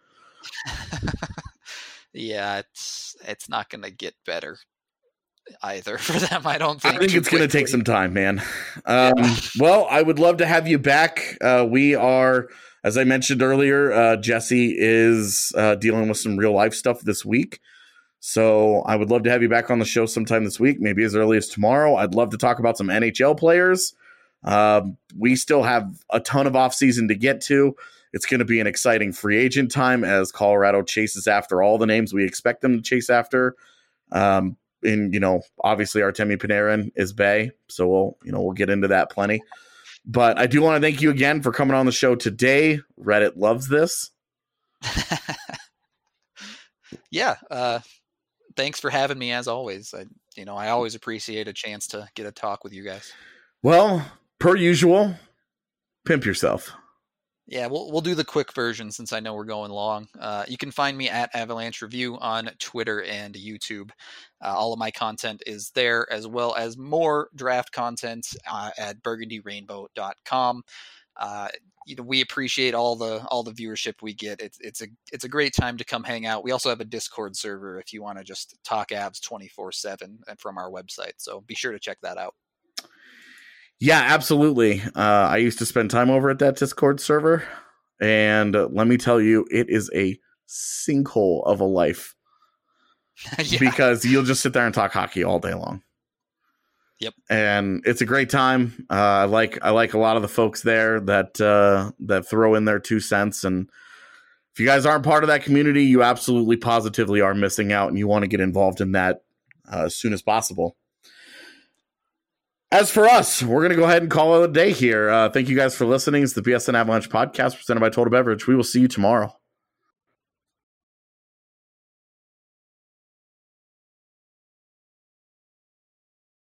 Speaker 5: Yeah, it's it's not going to get better either for them, I don't think.
Speaker 4: I think it's going to take some time, man. Um, yeah. Well, I would love to have you back. Uh, we are, as I mentioned earlier, uh, Jesse is uh, dealing with some real life stuff this week. So I would love to have you back on the show sometime this week, maybe as early as tomorrow. I'd love to talk about some N H L players. Um, we still have a ton of offseason to get to. It's going to be an exciting free agent time as Colorado chases after all the names we expect them to chase after. Um, and, you know, obviously Artemi Panarin is Bay, so we'll, you know, we'll get into that plenty. But I do want to thank you again for coming on the show today. Reddit loves this.
Speaker 5: yeah. Uh, thanks for having me as always. I, you know, I always appreciate a chance to get a talk with you guys.
Speaker 4: Well, per usual, pimp yourself.
Speaker 5: Yeah, we'll we'll do the quick version since I know we're going long. Uh, you can find me at Avalanche Review on Twitter and YouTube. Uh, all of my content is there, as well as more draft content uh, at burgundy rainbow dot com. Uh, you know, we appreciate all the all the viewership we get. It's it's a it's a great time to come hang out. We also have a Discord server if you want to just talk Avs twenty-four seven from our website. So be sure to check that out.
Speaker 4: Yeah, absolutely. Uh, I used to spend time over at that Discord server, and uh, let me tell you, it is a sinkhole of a life yeah. because you'll just sit there and talk hockey all day long.
Speaker 5: Yep,
Speaker 4: and it's a great time. Uh, I like I like a lot of the folks there that uh, that throw in their two cents. And if you guys aren't part of that community, you absolutely positively are missing out, and you want to get involved in that uh, as soon as possible. As for us, we're going to go ahead and call it a day here. Uh, thank you guys for listening. It's the B S N Avalanche podcast presented by Total Beverage. We will see you tomorrow.